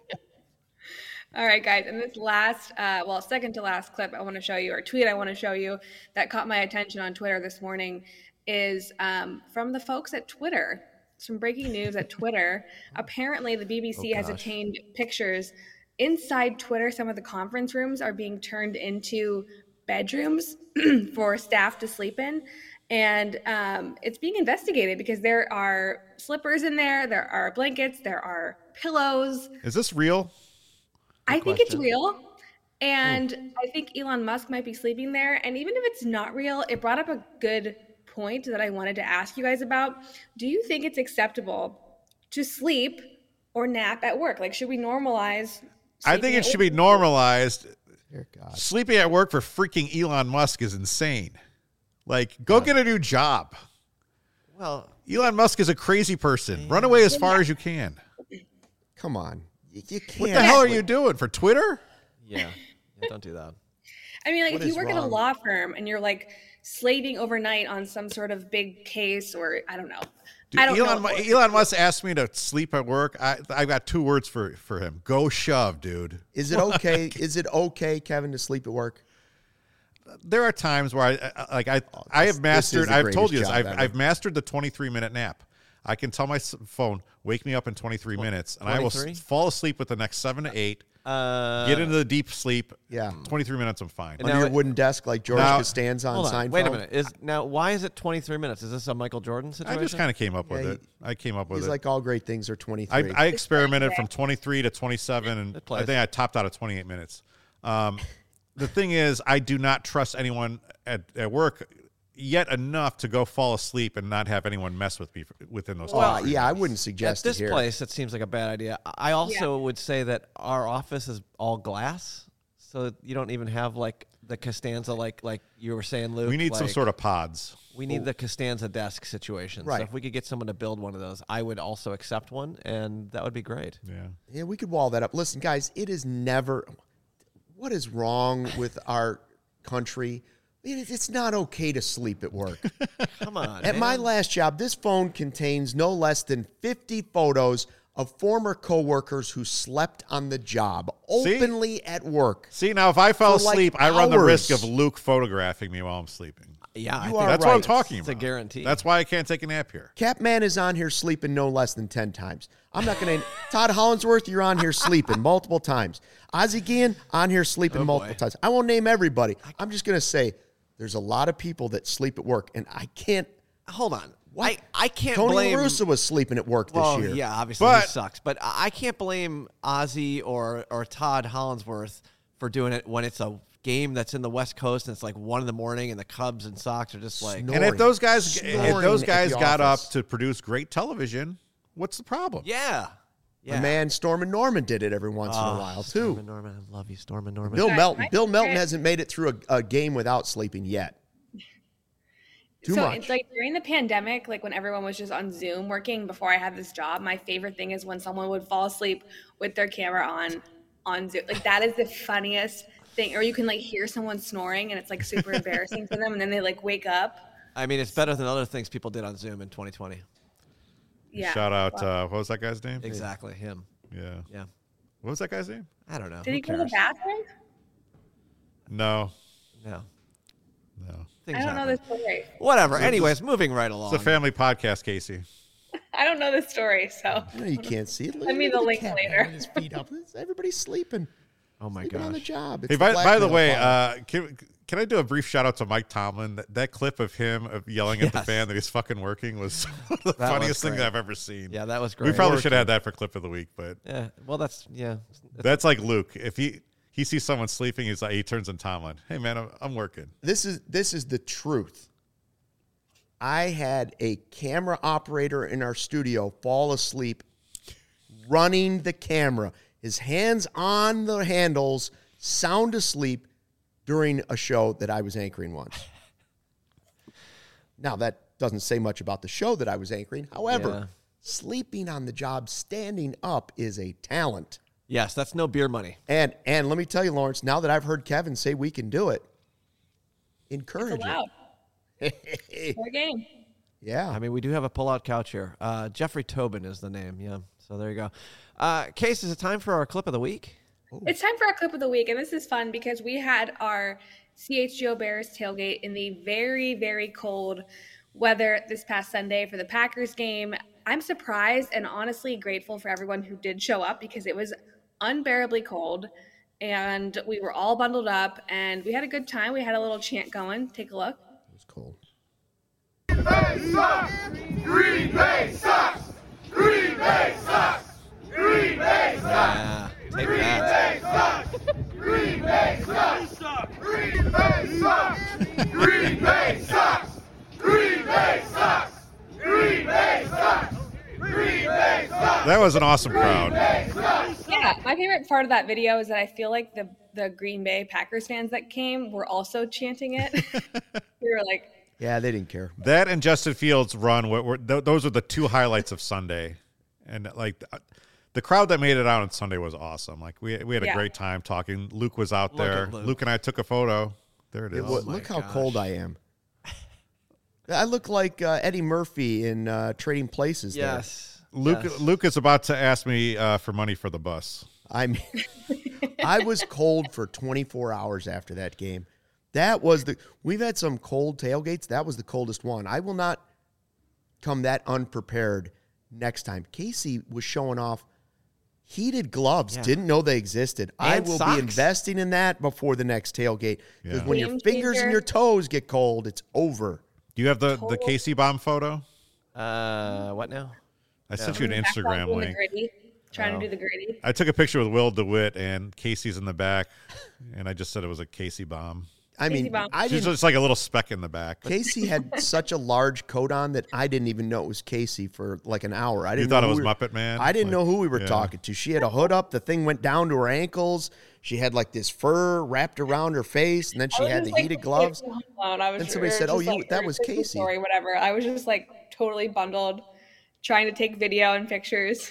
All right, guys. And this last, uh, well, second to last clip I want to show you, or tweet I want to show you that caught my attention on Twitter this morning is um, from the folks at Twitter. Some breaking news at Twitter. Apparently, the B B C Oh, has gosh. obtained pictures inside Twitter. Some of the conference rooms are being turned into bedrooms for staff to sleep in. And um, it's being investigated because there are slippers in there, there are blankets, there are pillows. Is this real? I think it's question. real. And mm. I think Elon Musk might be sleeping there. And even if it's not real, it brought up a good point that I wanted to ask you guys about. Do you think it's acceptable to sleep or nap at work? Like, should we normalize? I think it should be normalized. Dear God. Sleeping at work for freaking Elon Musk is insane. Like, go yeah. get a new job. Well, Elon Musk is a crazy person. Yeah. Run away as far yeah. as you can. Come on. You, you can't. What the hell are you doing? For Twitter? Yeah. yeah don't do that. I mean, like, what if you work wrong? at a law firm and you're, like, slaving overnight on some sort of big case or, I don't know. Dude, I don't Elon, know. Elon Musk asked me to sleep at work. I I've got two words for, for him. Go shove, dude. Is it okay? Is it okay, Kevin, to sleep at work? There are times where I like I oh, this, I have mastered. I've told you this. I've ever. I've mastered the twenty-three minute nap. I can tell my phone, wake me up in twenty-three minutes, and twenty-three? I will fall asleep with the next seven to eight. Uh, get into the deep sleep. Yeah, twenty-three minutes. I'm fine. Under your wooden desk, like George now, Costanza on, on Seinfeld. Wait a minute. Is now why is it twenty-three minutes? Is this a Michael Jordan situation? I just kind of came up with yeah, it. I came up with he's it. like all great things are twenty-three. I, I experimented from twenty-three to twenty-seven, and I think I topped out at twenty-eight minutes. Um, the thing is, I do not trust anyone at, at work yet enough to go fall asleep and not have anyone mess with me within those. Well, yeah, I wouldn't suggest at this it here. place. It seems like a bad idea. I also yeah. would say that our office is all glass, so you don't even have like the Costanza, like like you were saying, Luke. We need like, some sort of pods. We need Ooh. the Costanza desk situation. Right. So if we could get someone to build one of those, I would also accept one, and that would be great. Yeah. Yeah, we could wall that up. Listen, guys, it is never. What is wrong with our country? It's not okay to sleep at work. Come on. At man. my last job, this phone contains no less than fifty photos of former coworkers who slept on the job openly See? at work. See, now if I fell For asleep, like I run the hours. risk of Luke photographing me while I'm sleeping. Yeah, I You think are that's right. what I'm talking It's about. a guarantee. That's why I can't take a nap here. Capman is on here sleeping no less than ten times. I'm not going to. Todd Hollinsworth, you're on here sleeping multiple times. Ozzie Guillen, on here sleeping Oh, multiple boy. times. I won't name everybody. I'm just going to say there's a lot of people that sleep at work, and I can't. Hold on. What? I, I can't Tony blame. La Russa was sleeping at work well, this year. yeah, obviously But- he sucks. But I I can't blame Ozzy or or Todd Hollinsworth for doing it when it's a game that's in the West Coast and it's like one in the morning and the Cubs and Sox are just like. Snoring. And if those guys, if Snoring those at guys the got up office. to produce great television, what's the problem? Yeah. My Yeah. man Storm and Norman did it every once in Oh, a while Storm too. and Norman, I love you, Storm and Norman. Bill Right. Melton. My Bill Melton favorite- hasn't made it through a, a game without sleeping yet. Too so much. it's like during the pandemic, like when everyone was just on Zoom working before I had this job, my favorite thing is when someone would fall asleep with their camera on on Zoom. Like that is the funniest thing. Or you can like hear someone snoring and it's like super embarrassing for them and then they like wake up. I mean, it's better than other things people did on Zoom in twenty twenty. Yeah. Shout out, Wow. uh, what was that guy's name? Exactly, him. Yeah. Yeah. What was that guy's name? I don't know. Did Who he go to the cares? bathroom? No. No. No. Things I don't know happen. this story. Whatever. Anyways, moving right along. It's a family podcast, Casey. I don't know this story, so I know you can't see it. Look, Send me look the at link cat later. having his feet up. Everybody's sleeping. oh my Sleeping on the gosh. job. It's Hey, by, black by the metal way, pod. uh, can, can I do a brief shout out to Mike Tomlin? That, that clip of him of yelling at the Yes. fan that he's fucking working was one of the That was funniest things great. I've ever seen. Yeah, that was great. We probably should have that for clip of the week, but Yeah. Well, that's yeah. that's like Luke. If he he sees someone sleeping, he's like he turns on Tomlin. Hey man, I'm, I'm working. this is this is the truth. I had a camera operator in our studio fall asleep running the camera, his hands on the handles, sound asleep during a show that I was anchoring once. Now, that doesn't say much about the show that I was anchoring. However, Yeah. sleeping on the job, standing up is a talent. Yes, that's no beer money. And and let me tell you, Lawrence, now that I've heard Kevin say we can do it, encourage it's allowed. it. For a game. Yeah. I mean, we do have a pull-out couch here. Uh, Jeffrey Tobin is the name. Yeah. So there you go. Uh, Case, is it time for our clip of the week? It's time for our clip of the week, and this is fun because we had our C H G O Bears tailgate in the very, very cold weather this past Sunday for the Packers game. I'm surprised and honestly grateful for everyone who did show up because it was unbearably cold, and we were all bundled up, and we had a good time. We had a little chant going. Take a look. It was cold. Green Bay sucks! Green Bay sucks! Green Bay sucks! Green Bay sucks! Yeah. Take Green that. Bay sucks! Green Bay Bay sucks! Green Bay sucks! Green Bay sucks! Green Bay sucks! Green Bay sucks! That was an awesome crowd. Yeah, my favorite part of that video is that I feel like the the Green Bay Packers fans that came were also chanting it. We were like, Yeah, they didn't care. That and Justin Fields' run were, were th- those are the two highlights of Sunday, and like the, the crowd that made it out on Sunday was awesome. Like we we had a Yeah. great time talking. Luke was out Look there. at Luke. Luke and I took a photo. There it is. It wa- my look how gosh. cold I am. I look like uh, Eddie Murphy in uh, Trading Places. there. Yes. Luke yes. Luke is about to ask me uh, for money for the bus. I mean, I was cold for twenty-four hours after that game. That was the. We've had some cold tailgates. That was the coldest one. I will not come that unprepared next time. Casey was showing off heated gloves. Yeah. Didn't know they existed. I And will socks. be investing in that before the next tailgate because Yeah. when your Game fingers and changer. your toes get cold, it's over. Do you have the the Total- Casey bomb photo? Uh, what now? I sent you an back Instagram doing the link. gritty, trying Oh. to do the gritty. I took a picture with Will DeWitt and Casey's in the back, and I just said it was a Casey bomb. I Casey mean, bomb. I She's didn't. just like a little speck in the back. Casey had such a large coat on that I didn't even know it was Casey for like an hour. I didn't thought know it who was we were- Muppet Man? I didn't Like, know who we were yeah. talking to. She had a hood up. The thing went down to her ankles. She had like this fur wrapped around her face, and then she I was had just, the like, heated gloves. totally blown. I was Then somebody we were said, "Oh, just, you- like, that her was Christmas Casey." Story, whatever. I was just like totally bundled, trying to take video and pictures.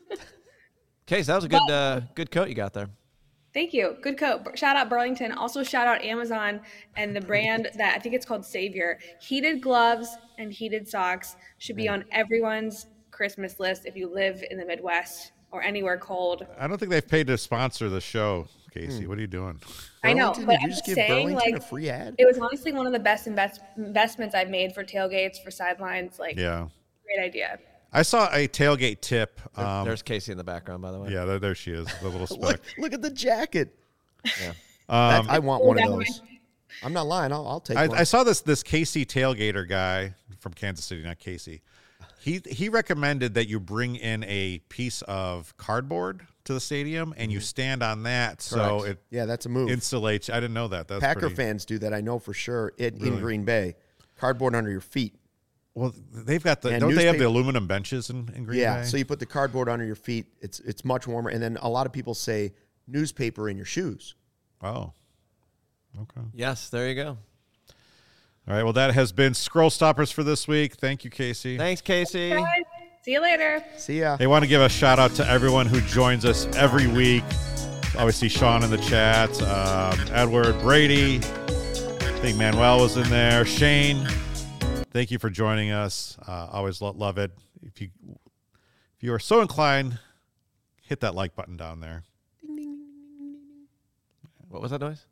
Case, that was a good uh, good coat you got there. Thank you. Good coat. Shout out Burlington. Also shout out Amazon and the brand that I think it's called Savior. Heated gloves and heated socks should be on everyone's Christmas list if you live in the Midwest or anywhere cold. I don't think they've paid to sponsor the show, Casey. What are you doing? I know, Burlington? but Did you I'm just just give saying, Burlington like, a free ad? it was honestly one of the best invest- investments I've made for tailgates, for sidelines. Like, Yeah. great idea. I saw a tailgate tip. There- Um, There's Casey in the background, by the way. yeah, there, there she is, the little speck. Look, look at the jacket. Yeah. Um, That- I want Oh, one of that those. I'm not lying. I'll, I'll take I, one. I saw this this Casey tailgater guy from Kansas City, not Casey. He he recommended that you bring in a piece of cardboard to the stadium and you stand on that so Correct. it yeah, that's a move. insulates. I didn't know that. That's Packer pretty, fans do that. I know for sure. In, in Really? Green Bay, cardboard under your feet. Well, they've got the Yeah, don't they have the newspaper- aluminum benches in, in Green Yeah, Bay? so you put the cardboard under your feet. It's it's much warmer. And then a lot of people say newspaper in your shoes. oh, okay. Yes, there you go. All right. Well, that has been Scroll Stoppers for this week. Thank you, Casey. Thanks, Casey. Guys, see you later. See ya. Hey, want to give a shout out to everyone who joins us every week. Obviously, Sean in the chat, um, Edward, Brady. I think Manuel was in there. Shane, thank you for joining us. Uh, always lo- love it. If you if you are so inclined, hit that like button down there. What was that noise?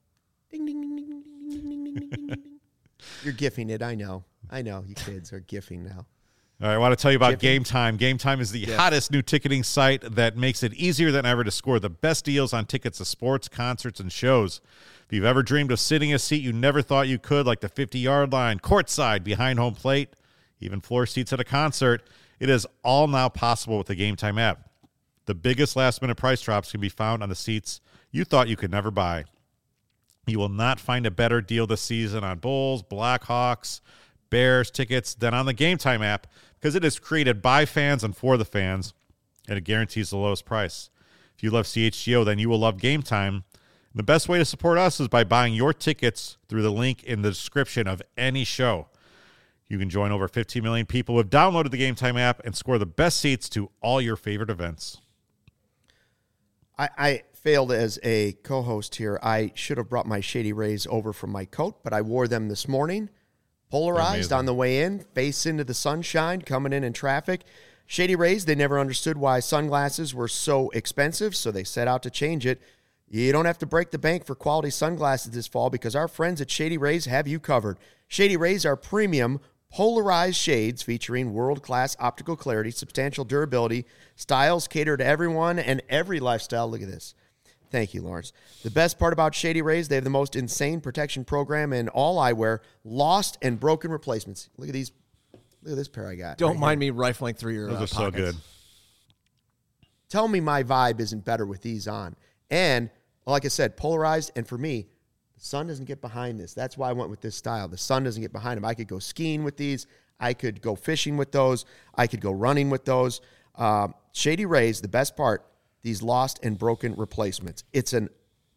You're gifting it. I know. I know. You kids are gifting now. All right, I want to tell you about Jiffy. Game Time. Game Time is the hottest new ticketing site that makes it easier than ever to score the best deals on tickets to sports, concerts, and shows. If you've ever dreamed of sitting a seat you never thought you could, like the fifty-yard line, courtside, behind home plate, even floor seats at a concert, it is all now possible with the Game Time app. The biggest last-minute price drops can be found on the seats you thought you could never buy. You will not find a better deal this season on Bulls, Blackhawks, Bears tickets than on the Game Time app because it is created by fans and for the fans, and it guarantees the lowest price. If you love C H G O, then you will love Game Time. The best way to support us is by buying your tickets through the link in the description of any show. You can join over fifteen million people who have downloaded the Game Time app and score the best seats to all your favorite events. I, I failed as a co-host here. I should have brought my Shady Rays over from my coat, but I wore them this morning. Polarized Amazing. on the way in, face into the sunshine, coming in in traffic. Shady Rays, they never understood why sunglasses were so expensive, so they set out to change it. You don't have to break the bank for quality sunglasses this fall because our friends at Shady Rays have you covered. Shady Rays are premium polarized shades featuring world-class optical clarity, substantial durability, styles cater to everyone and every lifestyle. Look at this. Thank you, Lawrence. The best part about Shady Rays, they have the most insane protection program in all eyewear, lost and broken replacements. Look at these. Look at this pair I got. Don't right mind here. me rifling through your Those uh, are so pockets. good. Tell me my vibe isn't better with these on. And like I said, polarized, and for me, the sun doesn't get behind this. That's why I went with this style. The sun doesn't get behind them. I could go skiing with these. I could go fishing with those. I could go running with those. Um, Shady Rays, the best part, these lost and broken replacements. It's an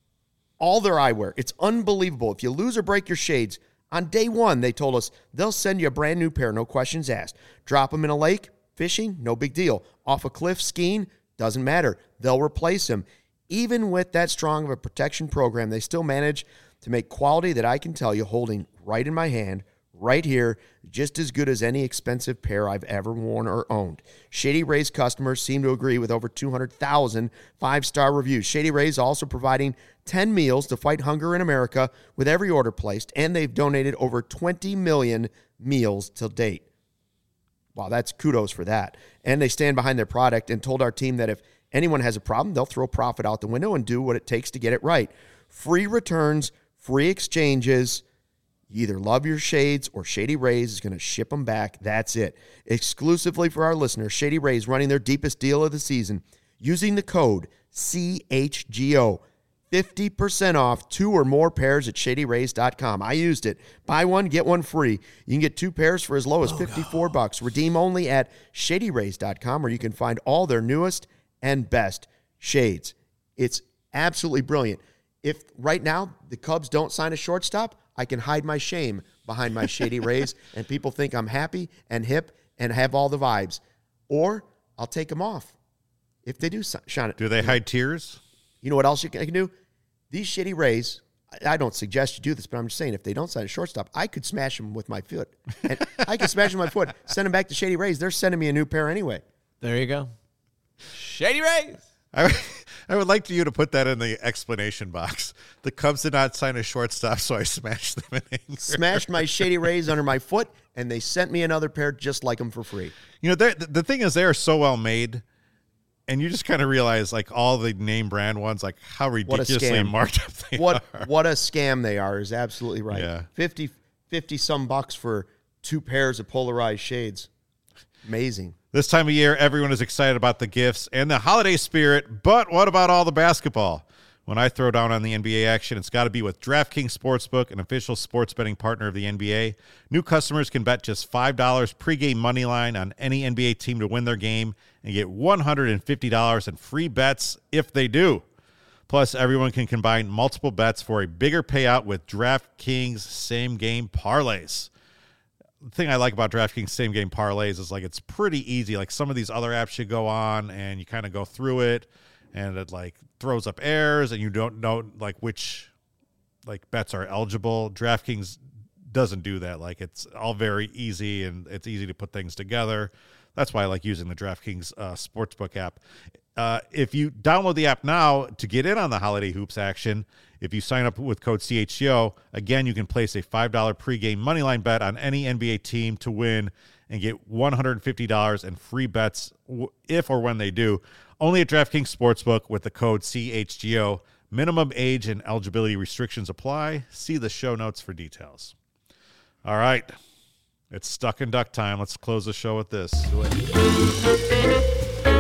all their eyewear. It's unbelievable. If you lose or break your shades, on day one, they told us they'll send you a brand new pair, no questions asked. Drop them in a lake, fishing, no big deal. Off a cliff, skiing, doesn't matter. They'll replace them. Even with that strong of a protection program, they still manage to make quality that I can tell you holding right in my hand, right here, just as good as any expensive pair I've ever worn or owned. Shady Rays customers seem to agree with over two hundred thousand five-star reviews. Shady Rays also providing ten meals to fight hunger in America with every order placed, and they've donated over twenty million meals till date. Wow, that's kudos for that. And they stand behind their product and told our team that if anyone has a problem, they'll throw profit out the window and do what it takes to get it right. Free returns, free exchanges. You either love your shades or Shady Rays is going to ship them back. That's it. Exclusively for our listeners, Shady Rays running their deepest deal of the season using the code C H G O. fifty percent off two or more pairs at shady rays dot com. I used it. Buy one, get one free. You can get two pairs for as low as fifty-four bucks. Redeem only at shady rays dot com, where you can find all their newest and best shades. It's absolutely brilliant. If right now the Cubs don't sign a shortstop, I can hide my shame behind my Shady Rays, and people think I'm happy and hip and have all the vibes. Or I'll take them off if they do shine it. Do they hide tears? You know what else you can, I can do? These Shady Rays, I, I don't suggest you do this, but I'm just saying, if they don't sign a shortstop, I could smash them with my foot. And I could smash them with my foot, send them back to Shady Rays. They're sending me a new pair anyway. There you go. Shady Rays. I, I would like you to put that in the explanation box. The Cubs did not sign a shortstop, so I smashed them in anger. Smashed my Shady Rays under my foot, and they sent me another pair just like them for free. You know, the, the thing is, they are so well made, and you just kind of realize, like, all the name brand ones, like, how ridiculously marked up they what, are. What a scam they are is absolutely right. Yeah. fifty, fifty some bucks for two pairs of polarized shades. Amazing. This time of year, everyone is excited about the gifts and the holiday spirit, but what about all the basketball? When I throw down on the N B A action, it's got to be with DraftKings Sportsbook, an official sports betting partner of the N B A. New customers can bet just five dollars pregame money line on any N B A team to win their game and get one hundred fifty dollars in free bets if they do. Plus, everyone can combine multiple bets for a bigger payout with DraftKings same-game parlays. The thing I like about DraftKings same game parlays is like it's pretty easy. Like some of these other apps you go on and you kind of go through it and it like throws up errors and you don't know like which like bets are eligible. DraftKings doesn't do that. Like it's all very easy and it's easy to put things together. That's why I like using the DraftKings uh, Sportsbook app. Uh, if you download the app now to get in on the holiday hoops action, if you sign up with code C H G O, again, you can place a five dollars pregame moneyline bet on any N B A team to win and get one hundred fifty dollars in free bets if or when they do. Only at DraftKings Sportsbook with the code C H G O. Minimum age and eligibility restrictions apply. See the show notes for details. All right. It's Stuck in Duck time. Let's close the show with this. Do it.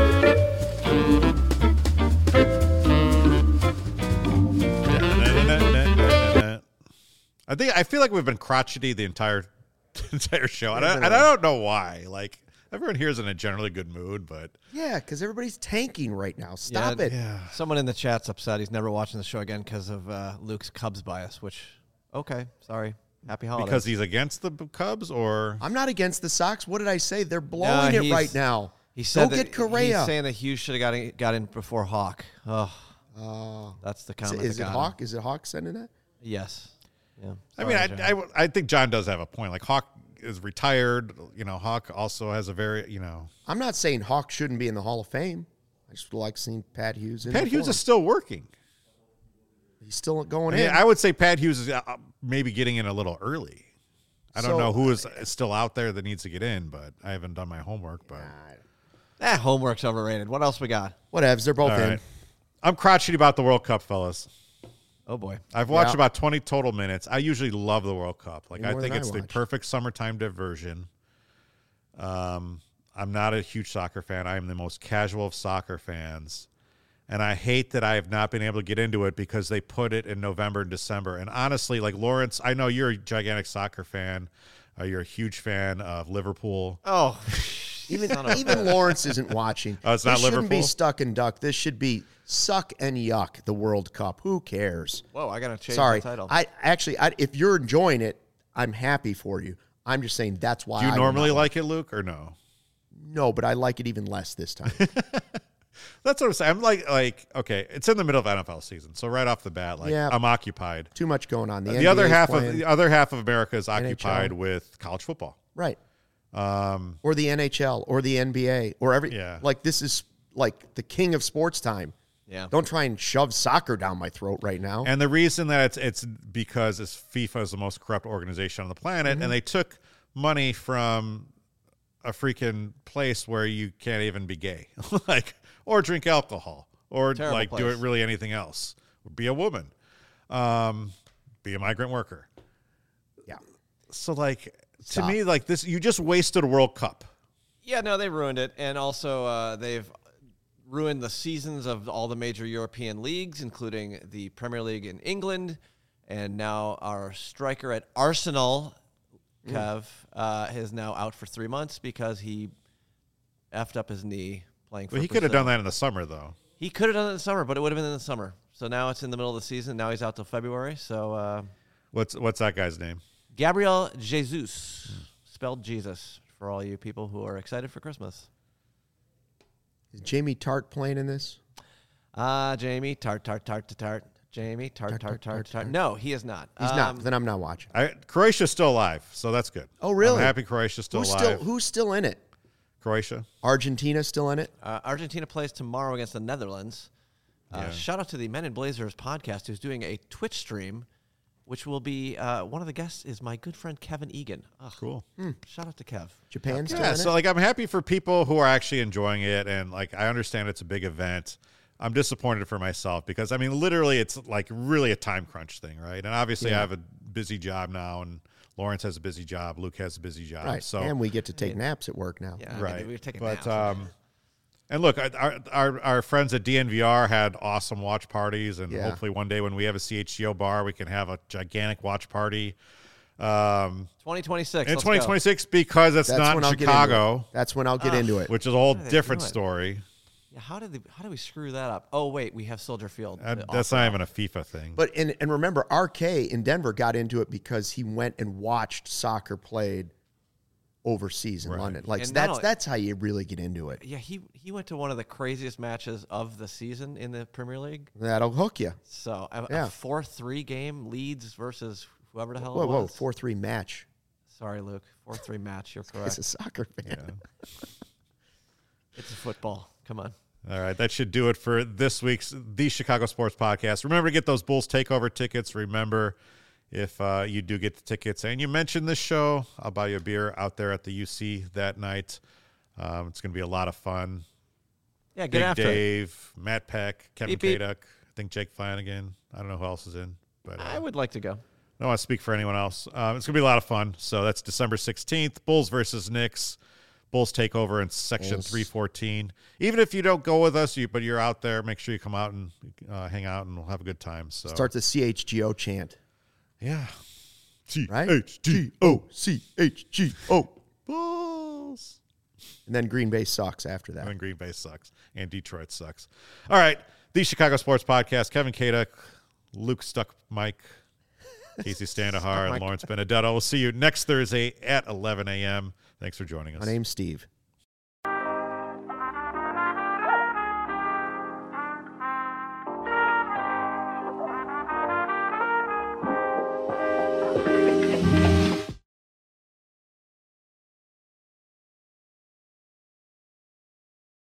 I think I feel like we've been crotchety the entire entire show, and I, and I don't know why. Like everyone here is in a generally good mood, but yeah, because everybody's tanking right now. Stop yeah, it. Yeah. Someone in the chat's upset. He's never watching the show again because of uh, Luke's Cubs bias. Which, okay, sorry. Happy holidays. Because he's against the Cubs, or I'm not against the Sox. What did I say? They're blowing No, it he's- right now. he said Go that get Correa. He's saying that Hughes should have got in, got in before Hawk. Oh, Oh. that's the Is, comment. is that it got Hawk? him. Is it Hawk sending that? Yes. Yeah. I mean, I, Sorry, I, John. I think John does have a point. Like Hawk is retired. You know, Hawk also has a very you know. I'm not saying Hawk shouldn't be in the Hall of Fame. I just would like seeing Pat Hughes in Pat before Hughes him. is still working. He's still going I, mean, in. I would say Pat Hughes is uh, maybe getting in a little early. I don't So- know who is still out there that needs to get in, but I haven't done my homework. But Eh, homework's overrated. What else we got? Whatevs. They're both all in. right, I'm crotchety about the World Cup, fellas. Oh boy. I've watched Yeah. about twenty total minutes. I usually love the World Cup. Like Way I more think than I it's the watch. perfect summertime diversion. Um, I'm not a huge soccer fan. I am the most casual of soccer fans. And I hate that I have not been able to get into it because they put it in November and December. And honestly, like Lawrence, I know you're a gigantic soccer fan. Uh, you're a huge fan of Liverpool. Oh, Even even Lawrence isn't watching. Oh, it's this not shouldn't Liverpool? be stuck and duck. This should be suck and yuck. The World Cup. Who cares? whoa! I gotta change Sorry, the title. I actually, I, if you're enjoying it, I'm happy for you. I'm just saying that's why. Do you I normally not like it, Luke, or no? No, but I like it even less this time. That's what I'm saying. I'm like, like, okay, it's in the middle of N F L season, so right off the bat, like, Yeah. I'm occupied. Too much going on. The, The N B A other 's half playing. of the other half of America is occupied N H L. with college football. Right. Um, Or the N H L or the N B A or every Yeah. like this is like the king of sports time. yeah. Don't try and shove soccer down my throat right now. and the reason that it's it's because it's FIFA is the most corrupt organization on the planet, Mm-hmm. and they took money from a freaking place where you can't even be gay, like, or drink alcohol, or Terrible like do place. it really anything else, or be a woman, um, be a migrant worker. Yeah. So like Stop. to me, like this, you just wasted a World Cup. Yeah, no, they ruined it, and also uh, they've ruined the seasons of all the major European leagues, including the Premier League in England, and now our striker at Arsenal, Kev, uh, is now out for three months because he effed up his knee playing for Well, he could have Brazil. done that in the summer, though. He could have done it in the summer, but it would have been in the summer. So now it's in the middle of the season. Now he's out till February. So uh, What's what's that guy's name? Gabriel Jesus, spelled Jesus, for all you people who are excited for Christmas. Is Jamie Tart playing in this? Ah, Jamie, tart, tart, tart, tart, tart. Jamie, tart, tart, tart, tart, tart. No, he is not. He's Um, not. Then I'm not watching. I, Croatia's still alive, so that's good. Oh, really? I'm happy Croatia's still Who's alive. still who's still in it? Croatia. Argentina still in it? Uh, Argentina plays tomorrow against the Netherlands. Uh, Yeah. Shout out to the Men in Blazers podcast, who's doing a Twitch stream, which will be uh, one of the guests is my good friend Kevin Egan. Ugh, Cool. Shout out to Kev. Japan still Yeah, in so it? like I'm happy for people who are actually enjoying it, and like I understand it's a big event. I'm disappointed for myself because I mean, literally, it's like really a time crunch thing, right? And obviously, I have a busy job now, and Lawrence has a busy job, Luke has a busy job, Right. so and we get to take naps at work now. Yeah, I mean, right. we were taking but naps. um, and look, our, our our friends at D N V R had awesome watch parties, and Yeah. hopefully one day when we have a C H G O bar, we can have a gigantic watch party. Um, twenty twenty-six. in let's twenty go. twenty-six because it's That's not when in I'll get into Chicago, it. That's when I'll get Ah. into it. which is a whole How do they different do it? story. Yeah, how did they, how did we screw that up? Oh wait, we have Soldier Field. Uh, to that's offer not up. even a FIFA thing. But and and remember, R K in Denver got into it because he went and watched soccer played overseas in Right. London. Like And not that's only- that's how you really get into it. Yeah, he he went to one of the craziest matches of the season in the Premier League. That'll hook you. So a, Yeah. a four three game, Leeds versus whoever the hell Whoa, it whoa, was. four three match. Sorry, Luke. four three match. You're As correct. a soccer fan. It's a football. Come on. All right, that should do it for this week's The Chicago Sports Podcast. Remember to get those Bulls Takeover tickets. Remember, if uh, you do get the tickets and you mention this show, I'll buy you a beer out there at the U C that night. Um, it's going to be a lot of fun. Yeah, get Big after it. Dave, Matt Peck, Kevin Beep, beep. Kaduk, I think Jake Flanagan. I don't know who else is in, but uh, I would like to go. I don't want to speak for anyone else. Um, it's going to be a lot of fun. So that's December sixteenth, Bulls versus Knicks. Bulls take over in section Bulls. three fourteen. Even if you don't go with us, you but you're out there, make sure you come out and uh, hang out, and we'll have a good time. So Start the C H G O chant. yeah. T Right? H G O C H G O. Bulls. And then Green Bay sucks after that. And then Green Bay sucks, and Detroit sucks. All right, the Chicago Sports Podcast. Kevin Kaduk, Luke Stuck, Mike, Casey Standahar, and Lawrence Benedetto. We'll see you next Thursday at eleven a.m. Thanks for joining us. My name's Steve.